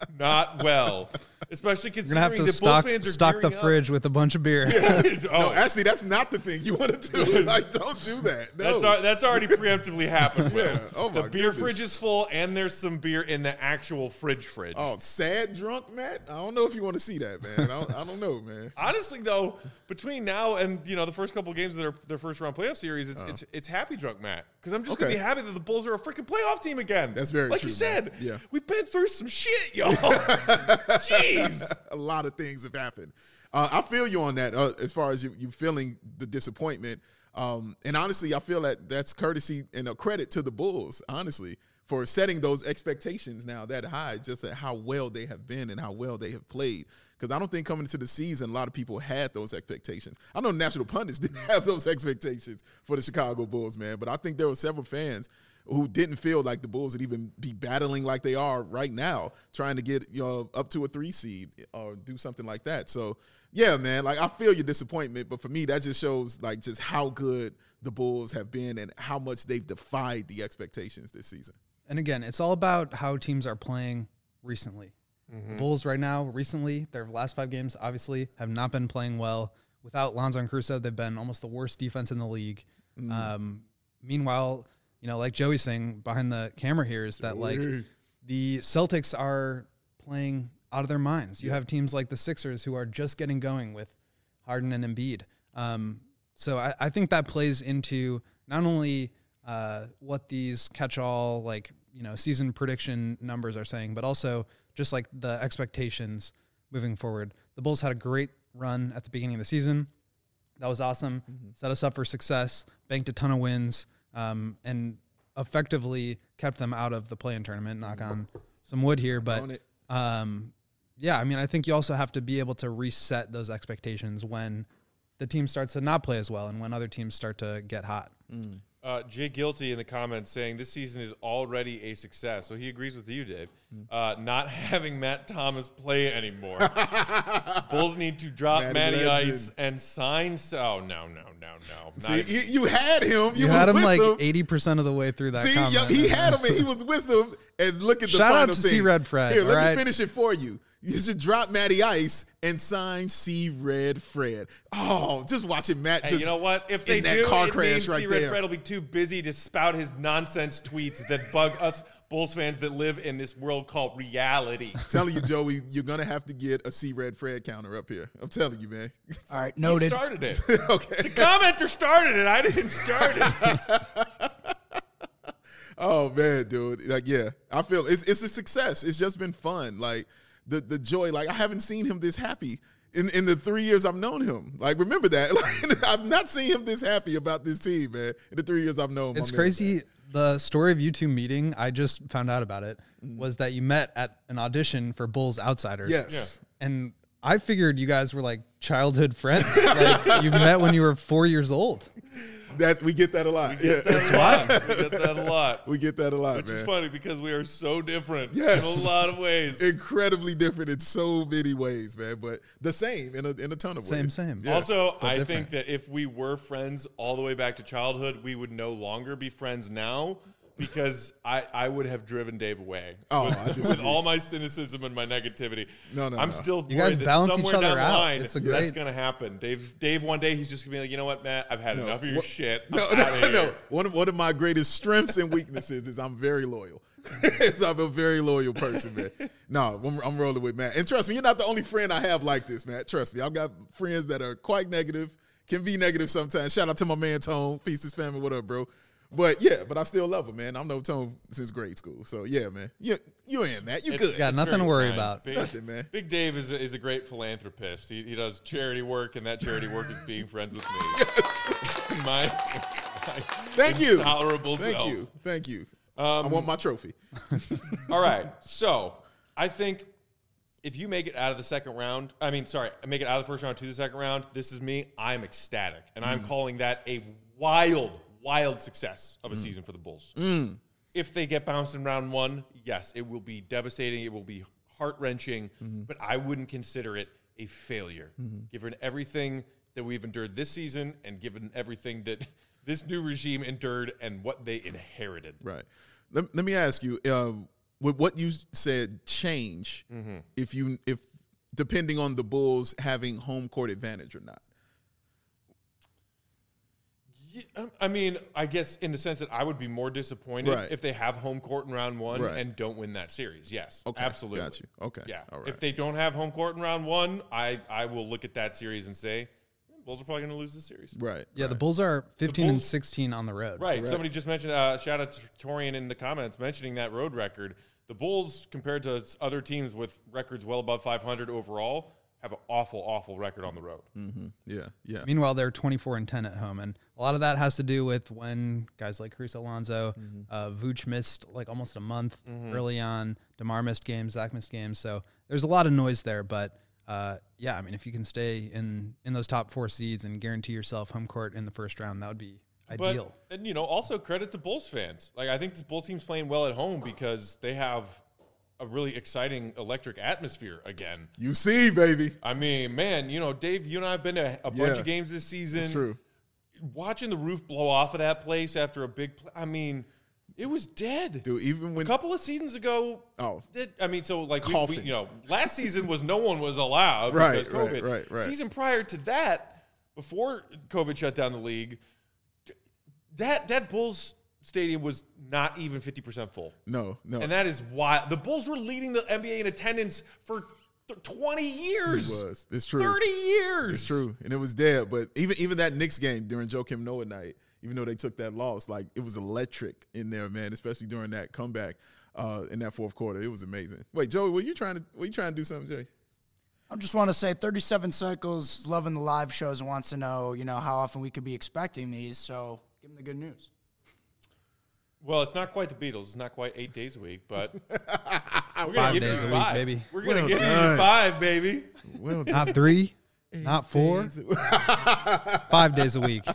Not well. Especially considering You're gonna have to the stock, Bulls fans are stock the gearing up. fridge with a bunch of beer. Yeah. Oh. No, actually, that's not the thing you want to do. Like, don't do that. No. That's, al- that's already preemptively happened. Yeah. Oh, my The beer goodness. fridge is full, and there's some beer in the actual fridge fridge. Oh, sad drunk, Matt? I don't know if you want to see that, man. I don't, I don't know, man. Honestly, though, between now and you know the first couple of games of their, their first round playoff series, it's, Uh. it's it's happy drunk, Matt. Because I'm just Okay. gonna be happy that the Bulls are a freaking playoff team again. That's very like true, you said. man. Yeah. We've been through some shit, y'all. Jeez. A lot of things have happened. Uh, I feel you on that uh, as far as you, you feeling the disappointment. Um, and honestly, I feel that that's courtesy and a credit to the Bulls, honestly, for setting those expectations now that high, just at how well they have been and how well they have played. Because I don't think coming into the season, a lot of people had those expectations. I know national pundits didn't have those expectations for the Chicago Bulls, man. But I think there were several fans who didn't feel like the Bulls would even be battling like they are right now, trying to get, you know, up to a three seed or do something like that. So, yeah, man, like I feel your disappointment, but for me, that just shows like just how good the Bulls have been and how much they've defied the expectations this season. And again, it's all about how teams are playing recently. Mm-hmm. The Bulls right now, recently, their last five games obviously have not been playing well. Without Lonzo and Caruso, they've been almost the worst defense in the league. Mm. Um, meanwhile, you know, like Joey's saying behind the camera here is that, like, the Celtics are playing out of their minds. You yeah. have teams like the Sixers who are just getting going with Harden and Embiid. Um, so I, I think that plays into not only uh, what these catch-all, like, you know, season prediction numbers are saying, but also just, like, the expectations moving forward. The Bulls had a great run at the beginning of the season. That was awesome. Mm-hmm. Set us up for success, banked a ton of wins, um, and effectively kept them out of the play-in tournament. Knock on some wood here. But, um, yeah, I mean, I think you also have to be able to reset those expectations when the team starts to not play as well and when other teams start to get hot. Mm. Uh, Jay Guilty in the comments saying this season is already a success. So he agrees with you, Dave. Uh, not having Matt Thomas play anymore. Bulls need to drop Matty Matty Legend. Ice and sign. Oh, no, no, no, no. See, Not- you, you had him. You, You was had him with like him. eighty percent of the way through that See, comment. yeah, he had him and he was with him. And look at the Shout out final to thing. C-Red Fred, Here, let all right? me finish it for you. You should drop Matty Ice and sign C-Red Fred. Oh, just watching Matt Hey, just you know what? If they in that do, car it crash means right C-Red there. Fred will be too busy to spout his nonsense tweets that bug us Bulls fans that live in this world called reality. telling you, Joey, you're going to have to get a C-Red Fred counter up here. I'm telling you, man. All right, He noted. started it. Okay. The commenter started it. I didn't start it. Oh man, dude. Like, yeah, I feel it's it's a success. It's just been fun. Like the the joy. Like I haven't seen him this happy in in the three years I've known him. Like remember that. Like, I've not seen him this happy about this team, man. In the three years I've known him. It's crazy. The story of you two meeting, I just found out about it, was that you met at an audition for Bulls Outsiders. Yes. And I figured you guys were like childhood friends. Like you met when you were four years old. That we get that a lot. We get yeah. that a lot. We get that a lot. We get that a lot, Which man. is funny because we are so different Yes. in a lot of ways. Incredibly different in so many ways, man. But the same in a in a ton of Same, ways. same. Yeah. Also, but I different. think that if we were friends all the way back to childhood, we would no longer be friends now because I, I would have driven Dave away. Oh, with, I with disagree. all my cynicism and my negativity. No, no, I'm no. still You worried guys that balance somewhere each other down the out. line, It's a that's great- going to happen. Dave, Dave, one day he's just going to be like, you know what, Matt? I've had No. enough of your What- shit. I'm No, outta no, here. no. One of one of my greatest strengths and weaknesses is I'm very loyal. I'm a very loyal person, man. No, I'm, I'm rolling with Matt. And trust me, you're not the only friend I have like this, Matt. Trust me, I've got friends that are quite negative, can be negative sometimes. Shout out to my man Tone, Feast his family. What up, bro? But yeah, but I still love him, man. I've known Tone since grade school. So yeah, man. You you in, Matt. You It's- good. Yeah, it's nothing to very worry kind. about. Big, Nothing, man. Big Dave is a, is a great philanthropist. He, he does charity work, and that charity work is being friends with me. my, my Thank you. intolerable Thank self. you. Thank you. Um, I want my trophy. All right. So I think if you make it out of the second round, I mean, sorry, make it out of the first round to the second round, this is me. I'm ecstatic. And I'm calling that a wild, wild success of a season for the Bulls. If they get bounced in round one, yes, it will be devastating. It will be heart-wrenching, but I wouldn't consider it a failure. Given everything that we've endured this season and given everything that this new regime endured and what they inherited. Right. Let, let me ask you, uh, with what you said, change if you if depending on the Bulls having home court advantage or not. Yeah, um, I mean, I guess in the sense that I would be more disappointed Right. if they have home court in round one Right. and don't win that series. Yes, Okay, absolutely. got you. Okay, Yeah. all right. If they don't have home court in round one, I, I will look at that series and say, "Hmm, Bulls are probably going to lose this series. Right. Yeah, right. the Bulls are fifteen and Bulls- sixteen on the road. Right. Somebody just mentioned, uh, shout out to Torian in the comments mentioning that road record. The Bulls, compared to other teams with records well above five hundred overall, have an awful, awful record on the road. Yeah. Yeah. Meanwhile, they're twenty-four and ten at home, and a lot of that has to do with when guys like Cruz Alonso, uh, Vooch missed like almost a month early on. DeMar missed games, Zach missed games, so there's a lot of noise there. But uh, yeah, I mean, if you can stay in in those top four seeds and guarantee yourself home court in the first round, that would be ideal. But, and, you know, also credit to Bulls fans. Like, I think this Bulls team's playing well at home because they have a really exciting electric atmosphere again. You see, baby. I mean, man, you know, Dave, you and I have been to a bunch Yeah. of games this season. It's true. Watching the roof blow off of that place after a big play, I mean, it was dead. Dude, even A when couple of seasons ago, Oh. that, I mean, so like, we, we, Coughing. you know, last season was no one was allowed Right, because right, COVID. right, right. Season prior to that, before COVID shut down the league, that that Bulls stadium was not even fifty percent full. no, no. And that is why the Bulls were leading the N B A in attendance for th- twenty years. It was. It's true. thirty years. It's true. And it was dead. But even even that Knicks game during Joakim Noah night, even though they took that loss, like it was electric in there, man, especially during that comeback uh, in that fourth quarter. It was amazing. Wait, Joey, were you trying to were you trying to do something, Jay? I just want to say thirty-seven Cycles loving the live shows and wants to know, you know, how often we could be expecting these. So give him the good news. Well, it's not quite the Beatles. It's not quite eight days a week, but we're Five gonna give days you a week, five. baby. We're gonna Well give you done. five, baby. Well, Not three, not four, five days a week.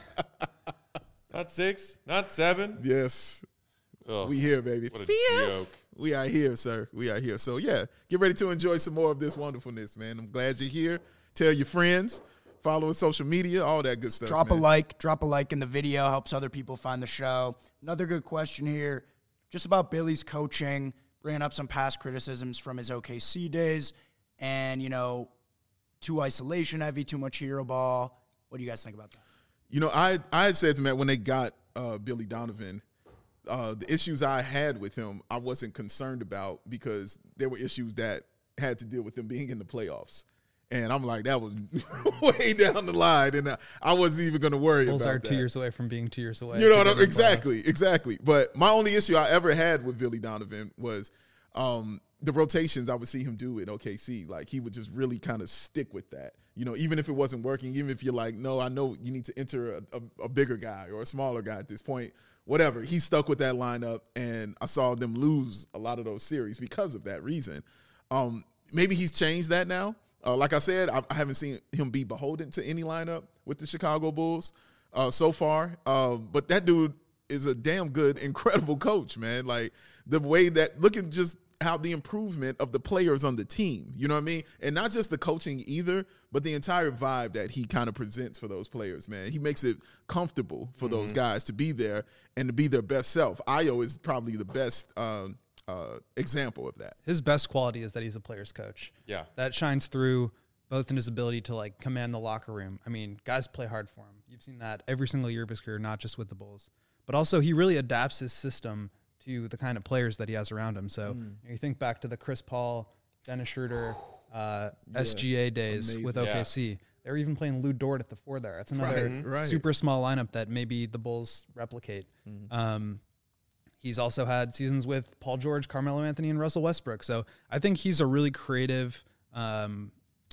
Not six, not seven. yes, Oh, we here, baby. what a joke. We are here, sir. We are here. So yeah, get ready to enjoy some more of this wonderfulness, man. I'm glad you're here. Tell your friends, follow us social media, all that good stuff. Drop man. a like. Drop a like in the video. Helps other people find the show. Another good question here, just about Billy's coaching, bringing up some past criticisms from his O K C days, and you know, too isolation heavy, too much hero ball. What do you guys think about that? You know, I I had said to Matt when they got uh, Billy Donovan, uh, the issues I had with him, I wasn't concerned about because there were issues that had to deal with him being in the playoffs. And I'm like, that was way down the line, and I, I wasn't even going to worry Bulls about are that. two years away from being two years away. You know what to I'm go to the playoffs. exactly, exactly. But my only issue I ever had with Billy Donovan was um, the rotations I would see him do at O K C. Like he would just really kind of stick with that. You know, even if it wasn't working, even if you're like, no, I know you need to enter a, a, a bigger guy or a smaller guy at this point, whatever. He stuck with that lineup, and I saw them lose a lot of those series because of that reason. Um, maybe he's changed that now. Uh, like I said, I, I haven't seen him be beholden to any lineup with the Chicago Bulls uh, so far. Uh, but that dude is a damn good, incredible coach, man. Like the way that, look at just how the improvement of the players on the team, you know what I mean? And not just the coaching either, but the entire vibe that he kind of presents for those players, man. He makes it comfortable for mm-hmm. those guys to be there and to be their best self. Ayo is probably the best um, uh, example of that. His best quality is that he's a player's coach. Yeah. That shines through both in his ability to like command the locker room. I mean, guys play hard for him. You've seen that every single year of his career, not just with the Bulls, but also he really adapts his system to the kind of players that he has around him. So mm. you think back to the Chris Paul, Dennis Schroeder, uh, yeah. S G A days Amazing. with O K C. Yeah. They were even playing Lou Dort at the four there. That's another right, right. super small lineup that maybe the Bulls replicate. Mm. Um, he's also had seasons with Paul George, Carmelo Anthony, and Russell Westbrook. So I think he's a really creative, um,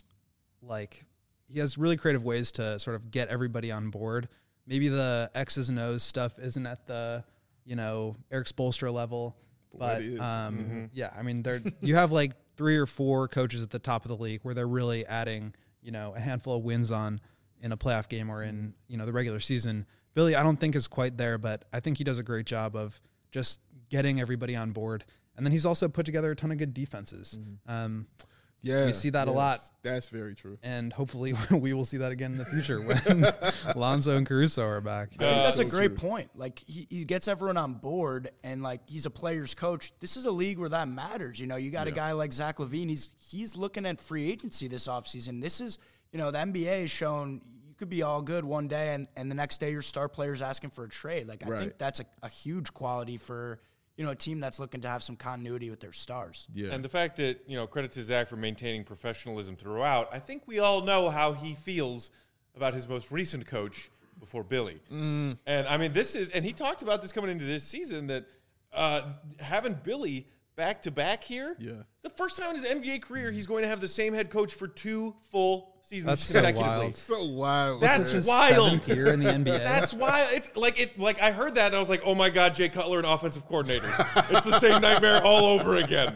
like he has really creative ways to sort of get everybody on board. Maybe the X's and O's stuff isn't at the, you know, Eric Spoelstra level, but um, mm-hmm. yeah, I mean, there you have like three or four coaches at the top of the league where they're really adding, you know, a handful of wins on in a playoff game or in, you know, the regular season. Billy, I don't think is quite there, but I think he does a great job of just getting everybody on board. And then he's also put together a ton of good defenses. Mm-hmm. Um, Yeah, we see that yes, a lot. That's very true. And hopefully we will see that again in the future when Lonzo and Caruso are back. I think that's so a great true. point. Like he, he gets everyone on board, and like he's a player's coach. This is a league where that matters. You know, you got yeah. a guy like Zach LaVine. He's he's looking at free agency this offseason. This is, you know, the N B A has shown you could be all good one day, and, and the next day your star player's asking for a trade. Like I right. think that's a, a huge quality for, you know, a team that's looking to have some continuity with their stars. Yeah. And the fact that, you know, credit to Zach for maintaining professionalism throughout, I think we all know how he feels about his most recent coach before Billy. Mm. And, I mean, this is – and he talked about this coming into this season that uh, having Billy back-to-back here, yeah. the first time in his N B A career he's going to have the same head coach for two full seasons That's so consecutively. wild. So wild. That's his wild. seventh year in the N B A. That's why it's like it. Like I heard that and I was like, "Oh my God, Jay Cutler and offensive coordinators! It's the same nightmare all over again."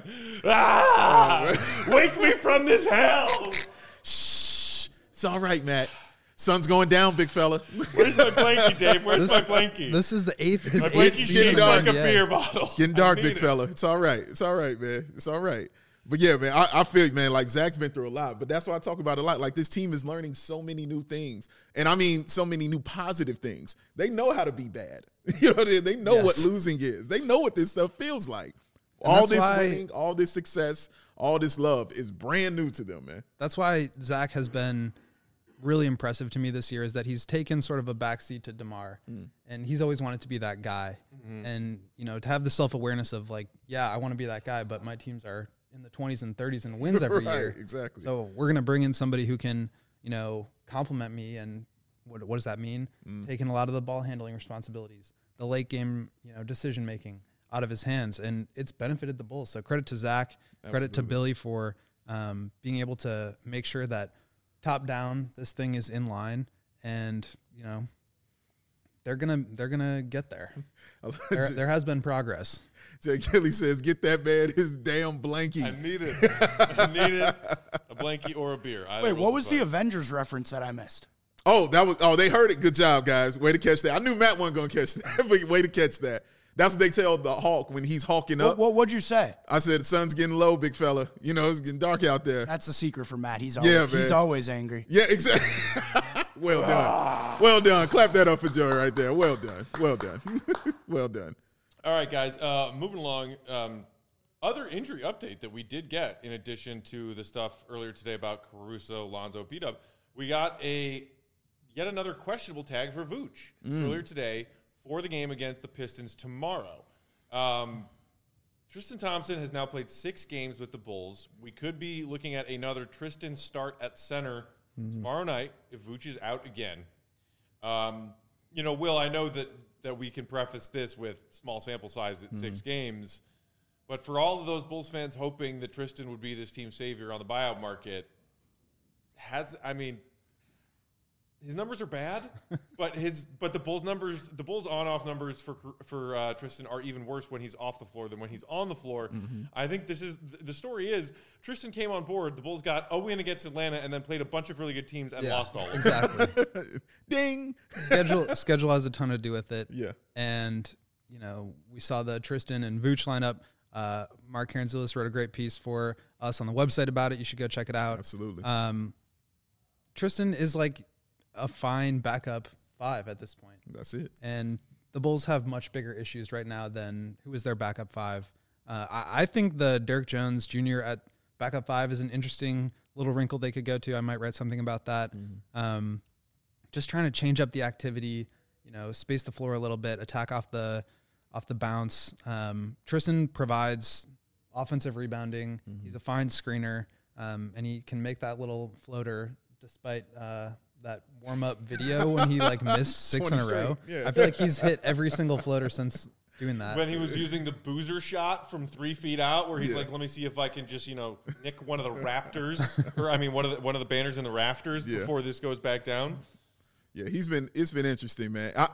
Ah! Wake me from this hell! Shh. It's all right, Matt. Sun's going down, big fella. Where's my blankie, Dave? Where's This- my blankie? This is the eighth. His my eighth blankie's season shaped in like the a N B A. beer bottle. It's getting dark, I big need it. fella. It's all right. It's all right, man. It's all right. But yeah, man, I, I feel, man, like Zach's been through a lot, but that's why I talk about it a lot. Like this team is learning so many new things. And I mean, so many new positive things. They know how to be bad. You know, they, they know Yes. what losing is. They know what this stuff feels like. And all that's this why- winning, all this success, all this love is brand new to them, man. That's why Zach has been really impressive to me this year is that he's taken sort of a backseat to DeMar, Mm. and he's always wanted to be that guy. Mm-hmm. And, you know, to have the self-awareness of like, yeah, I want to be that guy, but my teams are in the twenties and thirties and wins every Right, year. exactly. So we're going to bring in somebody who can, you know, compliment me. And what, what does that mean? Mm. Taking a lot of the ball handling responsibilities, the late game, you know, decision-making out of his hands. And it's benefited the Bulls. So credit to Zach, credit to Absolutely. Billy for um, being able to make sure that top down this thing is in line, and you know they're gonna they're gonna get there. there, there has been progress. Jay Kelly says, "Get that man his damn blankie." I need it. I need it. A blankie or a beer. Either Wait, what was fine. the Avengers reference that I missed? Oh, that was oh they heard it. Good job, guys. Way to catch that. I knew Matt wasn't gonna catch that, but way to catch that. That's what they tell the Hulk when he's hawking up. What, what what'd you say? I said, the sun's getting low, big fella. You know, it's getting dark out there. That's the secret for Matt. He's always, Yeah, man. he's always angry. Yeah, exactly. Well done. Well done. Clap that up for Joey right there. Well done. Well done. Well done. All right, guys. Uh, moving along. Um, other injury update that we did get, in addition to the stuff earlier today about Caruso, Lonzo, P-Dub, we got a yet another questionable tag for Vooch Mm. earlier today for the game against the Pistons tomorrow. Um, Tristan Thompson has now played six games with the Bulls. We could be looking at another Tristan start at center Mm-hmm. tomorrow night if Vooch is out again. Um, you know, Will, I know that, that we can preface this with small sample size at mm-hmm. six games, but for all of those Bulls fans hoping that Tristan would be this team's savior on the buyout market, has I mean, his numbers are bad, but his but the Bulls numbers, the Bulls on-off numbers for for uh, Tristan are even worse when he's off the floor than when he's on the floor. Mm-hmm. I think this is the story is Tristan came on board. The Bulls got a win against Atlanta and then played a bunch of really good teams and Yeah, lost all of them. Exactly. Ding. schedule schedule has a ton to do with it. Yeah. And you know we saw the Tristan and Vooch lineup. Uh, Mark Karanzulis wrote a great piece for us on the website about it. You should go check it out. Absolutely. Um, Tristan is like a fine backup five at this point. That's it. And the Bulls have much bigger issues right now than who is their backup five. Uh, I, I think the Derek Jones Junior at backup five is an interesting little wrinkle they could go to. I might write something about that. Mm-hmm. Um, just trying to change up the activity, you know, space the floor a little bit, attack off the off the bounce. Um, Tristan provides offensive rebounding. Mm-hmm. He's a fine screener, um, and he can make that little floater despite uh, that warm-up video when he like missed six in a row. Yeah. I feel like he's hit every single floater since doing that. When he was using the boozer shot from three feet out, where he's Yeah. like, "Let me see if I can just, you know, nick one of the Raptors, or I mean, one of the one of the banners in the rafters Yeah. before this goes back down." Yeah, he's been. It's been interesting, man. I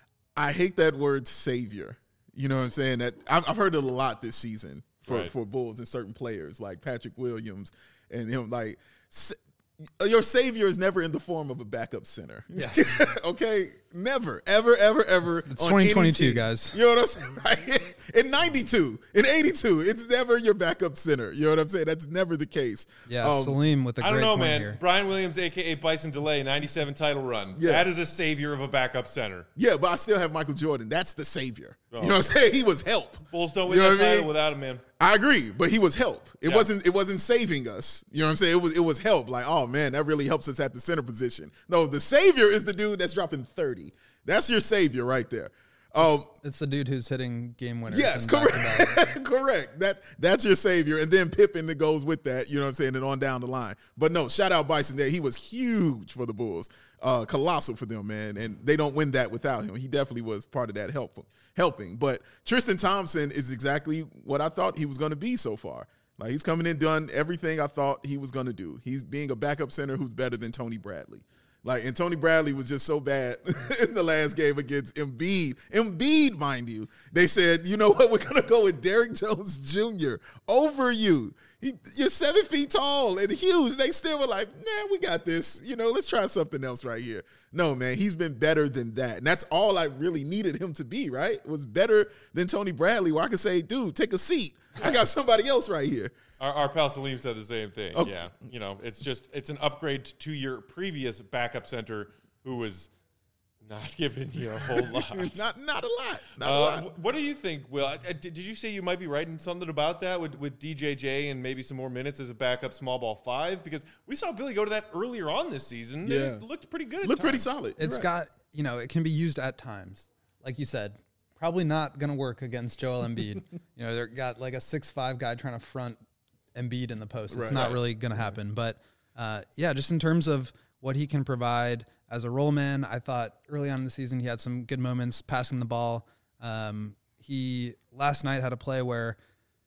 I hate that word savior. You know what I'm saying? That I've, I've heard it a lot this season for Right. for Bulls and certain players like Patrick Williams and him. Like, sa- your savior is never in the form of a backup center. Yes. Okay, never, ever, ever, ever. It's on twenty any twenty-two, team. guys. You know what I'm saying? Right? In ninety-two, in eighty-two, it's never your backup center. You know what I'm saying? That's never the case. Yeah, Um, Salim with a I great don't know, point man. here. Brian Williams, aka Bison Delay, ninety-seven title run. Yeah. That is a savior of a backup center. Yeah, but I still have Michael Jordan. That's the savior. Oh. You know what I'm saying? He was help. Bulls don't win You know that what I title mean? without him, man. I agree, but he was help. It Yeah. wasn't. It wasn't saving us. You know what I'm saying? It was. It was help. Like, oh man, that really helps us at the center position. No, the savior is the dude that's dropping thirty. That's your savior right there. Um, It's the dude who's hitting game winners. yes, and back-to-back. correct, correct. That that's your savior, and then Pippen that goes with that. You know what I'm saying? And on down the line. But no, shout out Bison there. He was huge for the Bulls, uh, colossal for them, man. And they don't win that without him. He definitely was part of that help helping. But Tristan Thompson is exactly what I thought he was going to be so far. Like, he's coming in, done everything I thought he was going to do. He's being a backup center who's better than Tony Bradley. Like, and Tony Bradley was just so bad in the last game against Embiid. Embiid, mind you. They said, you know what, we're going to go with Derek Jones Junior over you. He, you're seven feet tall and huge. They still were like, nah, we got this. You know, let's try something else right here. No, man, he's been better than that. And that's all I really needed him to be, right? It was better than Tony Bradley, where I could say, dude, take a seat. I got somebody else right here. Our, our pal Salim said the same thing. Oh. Yeah, you know, it's just it's an upgrade to your previous backup center who was not giving you a whole lot. not not a lot. Not a Uh, lot. wh- what do you think, Will? I, I- did, did you say you might be writing something about that with, with D J J and maybe some more minutes as a backup small ball five? Because we saw Billy go to that earlier on this season. and Yeah. It looked pretty good. At Looked pretty times. solid. It's You're right. got, you know, it can be used at times. Like you said, probably not going to work against Joel Embiid. You know, they've got like a six five guy trying to front Embiid in the post. It's Right. not Right. really going to happen. But, uh, yeah, just in terms of what he can provide as a role man, I thought early on in the season he had some good moments passing the ball. Um, he last night had a play where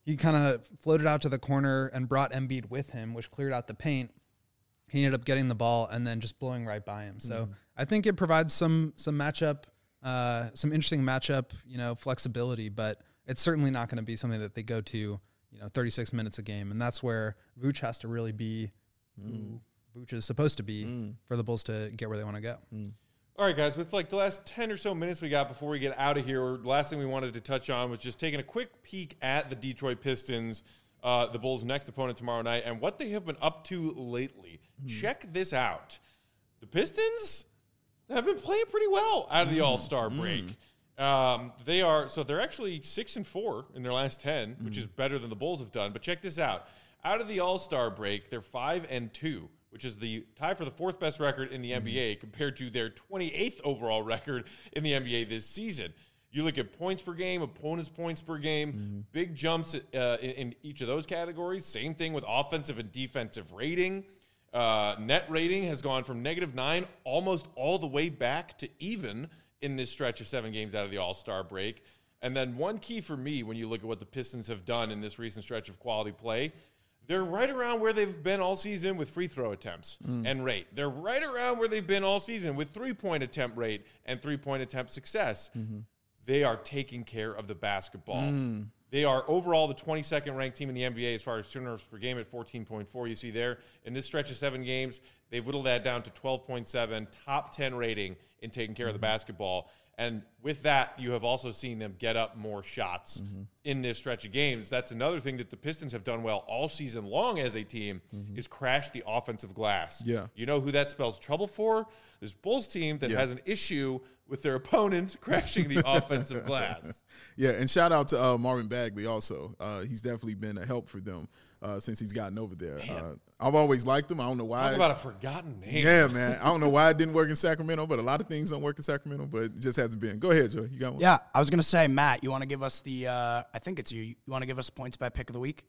he kind of floated out to the corner and brought Embiid with him, which cleared out the paint. He ended up getting the ball and then just blowing right by him. So mm. I think it provides some some matchup, uh, some interesting matchup, you know, flexibility. But it's certainly not going to be something that they go to, you know, thirty-six minutes a game, and that's where Vooch has to really be mm. who Vooch is supposed to be mm. for the Bulls to get where they want to go. Mm. All right, guys, with like the last ten or so minutes we got before we get out of here, the last thing we wanted to touch on was just taking a quick peek at the Detroit Pistons, uh, the Bulls' next opponent tomorrow night, and what they have been up to lately. Mm. Check this out. The Pistons have been playing pretty well out of the mm. All-Star break. Mm. Um, they are so they're actually six and four in their last ten, mm. which is better than the Bulls have done. But check this out. Out of the All-Star break, they're five and two. Which is the tie for the fourth best record in the mm-hmm. N B A compared to their twenty-eighth overall record in the N B A this season. You look at points per game, opponents' points per game, mm-hmm. big jumps uh, in, in each of those categories. Same thing with offensive and defensive rating. Uh, net rating has gone from negative nine almost all the way back to even in this stretch of seven games out of the All-Star break. And then one key for me when you look at what the Pistons have done in this recent stretch of quality play, they're right around where they've been all season with free throw attempts mm. and rate. They're right around where they've been all season with three-point attempt rate and three-point attempt success. Mm-hmm. They are taking care of the basketball. Mm. They are overall the twenty-second ranked team in the N B A as far as turnovers per game at fourteen point four. You see there. In this stretch of seven games, they've whittled that down to twelve point seven, top ten rating in taking care mm-hmm. of the basketball. And with that, you have also seen them get up more shots mm-hmm. in this stretch of games. That's another thing that the Pistons have done well all season long as a team mm-hmm. is crash the offensive glass. Yeah. You know who that spells trouble for? This Bulls team that yeah. has an issue with their opponents crashing the offensive glass. Yeah, and shout out to uh, Marvin Bagley also. Uh, he's definitely been a help for them uh, since he's gotten over there. Uh, I've always liked him. I don't know why. Talk about a forgotten name. Yeah, man. I don't know why it didn't work in Sacramento, but a lot of things don't work in Sacramento, but it just hasn't been. Go ahead, Joe. You got one? Yeah, I was going to say, Matt, you want to give us the uh, – I think it's you. You want to give us points by pick of the week?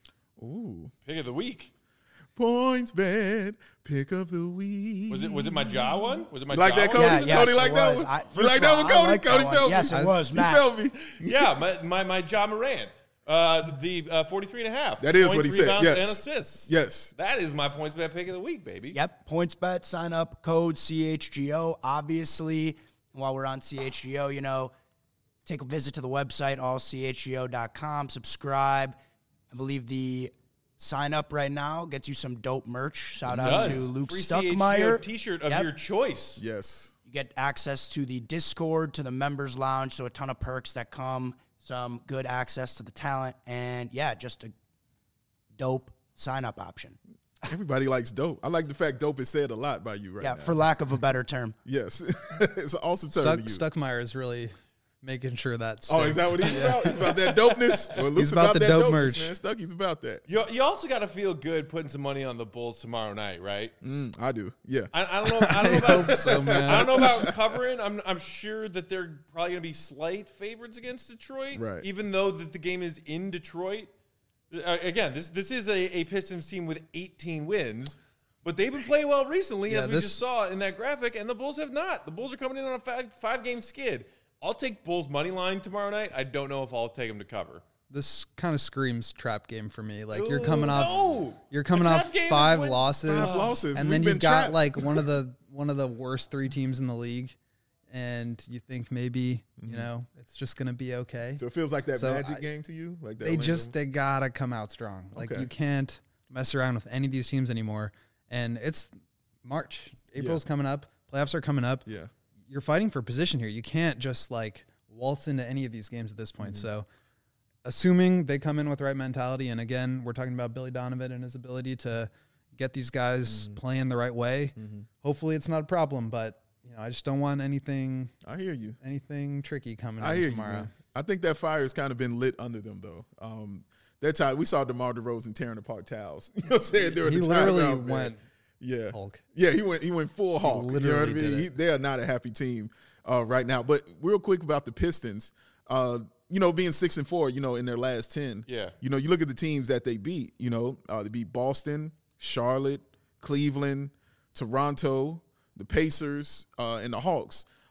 Ooh. Pick of the week. Points bet, pick of the week. Was it was it my jaw one? Was it my you like jaw that, Cody? one? Yeah, Cody yes, like that one? I, you like that one, Cody? Like Cody that felt one. me. Yes, it was, Matt. He felt me. Yeah, my my, my Ja Morant. Uh, the uh, forty-three and a half. That is points, what he said. Rebounds, Yes. and assists. Yes. That is my points bet pick of the week, baby. Yep. Points bet, sign up, code C H G O. Obviously, while we're on C H G O, you know, take a visit to the website, all c h g o dot com. Subscribe. I believe the sign up right now gets you some dope merch. Shout it out does. to Luke Free Stuckmeyer. T-shirt of Yep. your choice. Yes. You get access to the Discord, to the members lounge, so a ton of perks that come, some good access to the talent, and yeah, just a dope sign-up option. Everybody likes dope. I like the fact dope is said a lot by you right yeah, now. Yeah, for lack of a better term. Yes. It's an awesome term Stuck, to use. Stuckmeyer is really making sure that Oh, is that what he's about? He's about that dopeness? Well, Luke's He's about, the that dope dopeness, merch. Man. Stucky's about that. You, you also got to feel good putting some money on the Bulls tomorrow night, right? Mm, I do. Yeah. I, I don't know. I don't know about. I hope so, man. I don't know about covering. I'm I'm sure that they're probably going to be slight favorites against Detroit, Right. even though that the game is in Detroit. Uh, again, this this is a, a Pistons team with eighteen wins, but they've been playing well recently, Yeah, as we this- just saw in that graphic, and the Bulls have not. The Bulls are coming in on a five, five game skid. I'll take Bulls money line tomorrow night. I don't know if I'll take them to cover. This kind of screams trap game for me. Like you're Ooh, coming off, no. you're coming A trap off game is five when- losses, Five losses. and We've then been you've got trapped. like one of the one of the worst three teams in the league, and you think maybe Mm-hmm. you know it's just gonna be okay. So it feels like that So Magic I- game to you? Like that They Orlando? just they gotta come out strong. Like Okay. you can't mess around with any of these teams anymore. And it's March, April's coming up, playoffs are coming up. Yeah. You're fighting for position here. You can't just like waltz into any of these games at this point. Mm-hmm. So, assuming they come in with the right mentality, and again, we're talking about Billy Donovan and his ability to get these guys Mm-hmm. playing the right way. Hopefully, it's not a problem. But you know, I just don't want anything I hear you. anything tricky coming I in hear tomorrow. you, man. I think that fire has kind of been lit under them, though. Um, that time we saw DeMar DeRozan tearing apart towels. You know what I'm saying? During He the literally timeout, man. went yeah. Hulk. Yeah, he went he went full Hulk. You know what I literally mean? did it. He, they are not a happy team uh, right now. But real quick about the Pistons, uh, you know, being six and four, you know, in their last ten. Yeah. You know, you look at the teams that they beat. You know, uh, they beat Boston, Charlotte, Cleveland, Toronto, the Pacers, uh, and the Hawks.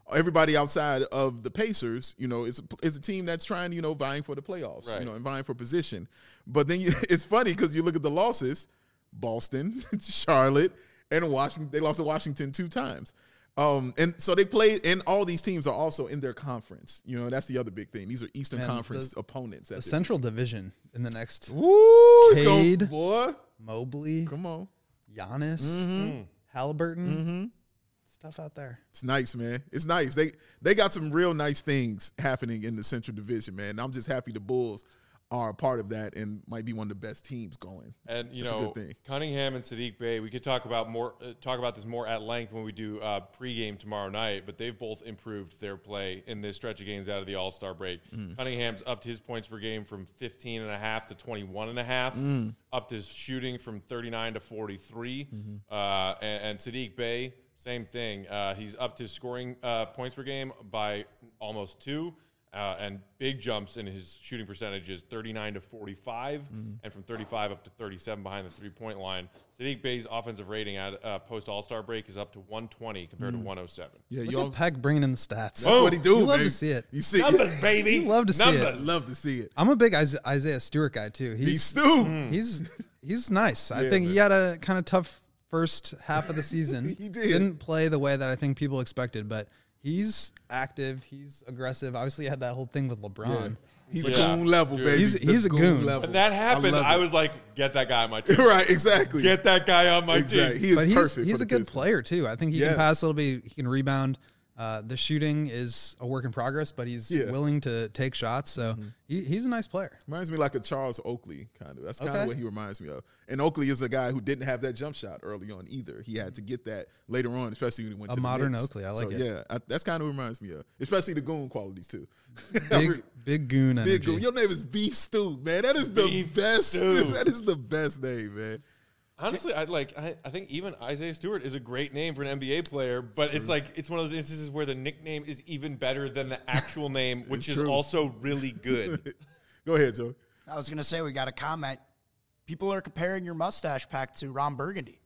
everybody outside of the Pacers, you know, is a, is a team that's trying, you know, vying for the playoffs, Right. you know, and vying for position. But then you, it's funny because you look at the losses: Boston, Charlotte, and Washington. They lost to Washington two times. Um, and so they play, and all these teams are also in their conference. You know, that's the other big thing. These are Eastern Man, Conference the- opponents. The That's it. Central Division in the next Woo, it's gonna, Cade. boy, Mobley, come on. Giannis, Mm-hmm. Halliburton, stuff out there. It's nice, man. It's nice. They they got some real nice things happening in the Central Division, man. I'm just happy the Bulls are a part of that and might be one of the best teams going. And you That's a know, good thing. Cunningham and Sadiq Bey. We could talk about more, uh, talk about this more at length when we do uh, pregame tomorrow night. But they've both improved their play in this stretch of games out of the All-Star break. Mm. Cunningham's upped his points per game from fifteen and a half to twenty-one and a half. Mm. Upped his shooting from thirty-nine to forty-three. Mm-hmm. Uh, and, and Sadiq Bey, same thing. Uh, he's upped his scoring uh, points per game by almost two. Uh, and big jumps in his shooting percentages, thirty-nine to forty-five, Mm-hmm. and from thirty-five up to thirty-seven behind the three-point line. Sadiq Bey's offensive rating at uh, post All-Star break is up to one twenty compared to one oh seven. Yeah, Look y'all. at Peck bringing in the stats. That's what he do, You love baby. to see it. You see, Numbers, baby. You love to see it. Numbers. love to see it. I'm a big Isa- Isaiah Stewart guy too. Beef He's stew. he's he's nice. I Yeah, think man. he had a kind of tough first half of the season. He did. Didn't play the way that I think people expected, but he's active. He's aggressive. Obviously, he had that whole thing with LeBron. Yeah. He's Yeah. goon level, Dude. baby. He's- The he's a goon. levels. When that happened, love I, it. was like, get that guy on my team. right, exactly. Get that guy on my exactly. team. He is But he's perfect. he's for a the good Pistons. player too. I think he Yes. can pass a little bit. He can rebound. Uh, the shooting is a work in progress, but he's Yeah. willing to take shots. So he, he's a nice player. Reminds me like a Charles Oakley kind of. That's kind Okay. of what he reminds me of. And Oakley is a guy who didn't have that jump shot early on either. He had to get that later on, especially when he went A to the modern Knicks. Oakley. I like so, it. Yeah, I, that's kind of what it reminds me of. Especially the goon qualities too. Big big goon energy. Big goon. Your name is Beef Stew, man. That is the Beef best. Stew. That is the best name, man. Honestly, I like. I, I think even Isaiah Stewart is a great name for an N B A player, but it's like it's one of those instances where the nickname is even better than the actual name, which is true. also really good. Go ahead, Joe. I was gonna say we got a comment. People are comparing your mustache pack to Ron Burgundy.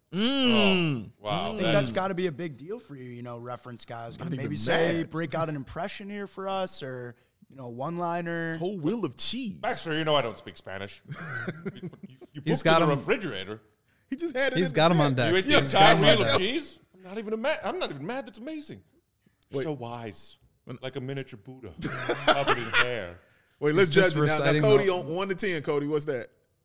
Oh, wow, I think that's got to be a big deal for you, you know, reference guys. Gonna Not even maybe say mad. break out an impression here for us, or you know, one liner. Whole wheel of cheese. Baxter, you know I don't speak Spanish. you you, you He's pooped got in the him- refrigerator. He just had it. He's in got the him on bag. deck. You ate the He's entire got him on wheel of deck. cheese? I'm not even a mad. I'm not even mad. That's amazing. Wait. So wise, like a miniature Buddha, covered in hair. Wait, let's He's just judge it now. Now, reciting Cody, the- on one to ten, Cody, what's that?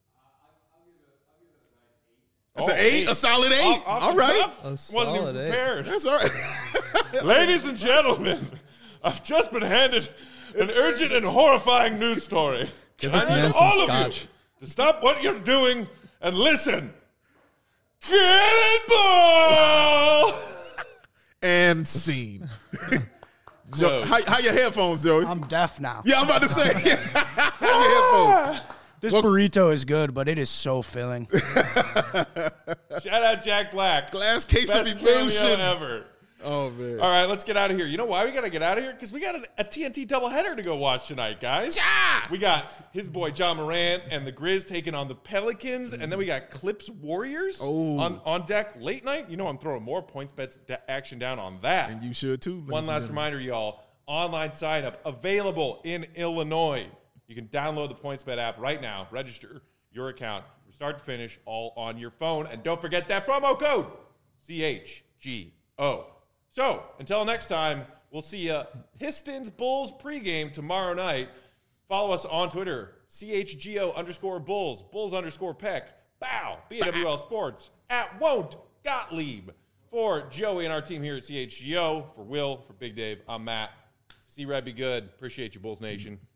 That's Oh, an eight, eight. a solid eight. Off- off all the right, cuff? A Wasn't even solid eight. prepared. that's all right. Ladies and gentlemen, I've just been handed an urgent and horrifying news story. Give Can this I man need some all of scotch. you to stop what you're doing and listen. Cannonball! And scene. Joe, Close. how, how your headphones, Joey? I'm deaf now. yeah, I'm about to say. how your headphones? This burrito is good, but it is so filling. Shout out Jack Black. Glass case Best of cameo emotion. ever. Oh man. All right, let's get out of here. You know why we got to get out of here? Because we got a, a T N T doubleheader to go watch tonight, guys. We got his boy John Morant and the Grizz taking on the Pelicans, and then we got Clips Warriors Oh. on, on deck late night. You know I'm throwing more points bets da- action down on that. And you should too. ladies One and last gentlemen. reminder, y'all. Online sign up available in Illinois. You can download the PointsBet app right now. Register your account from start to finish, all on your phone. And don't forget that promo code, C H G O. So, until next time, we'll see you Pistons Bulls pregame tomorrow night. Follow us on Twitter, C H G O underscore Bulls, Bulls underscore Peck, Bow, B A W L Sports, at Won't Gottlieb. For Joey and our team here at C H G O, for Will, for Big Dave, I'm Matt. See Red be good. Appreciate you, Bulls Nation.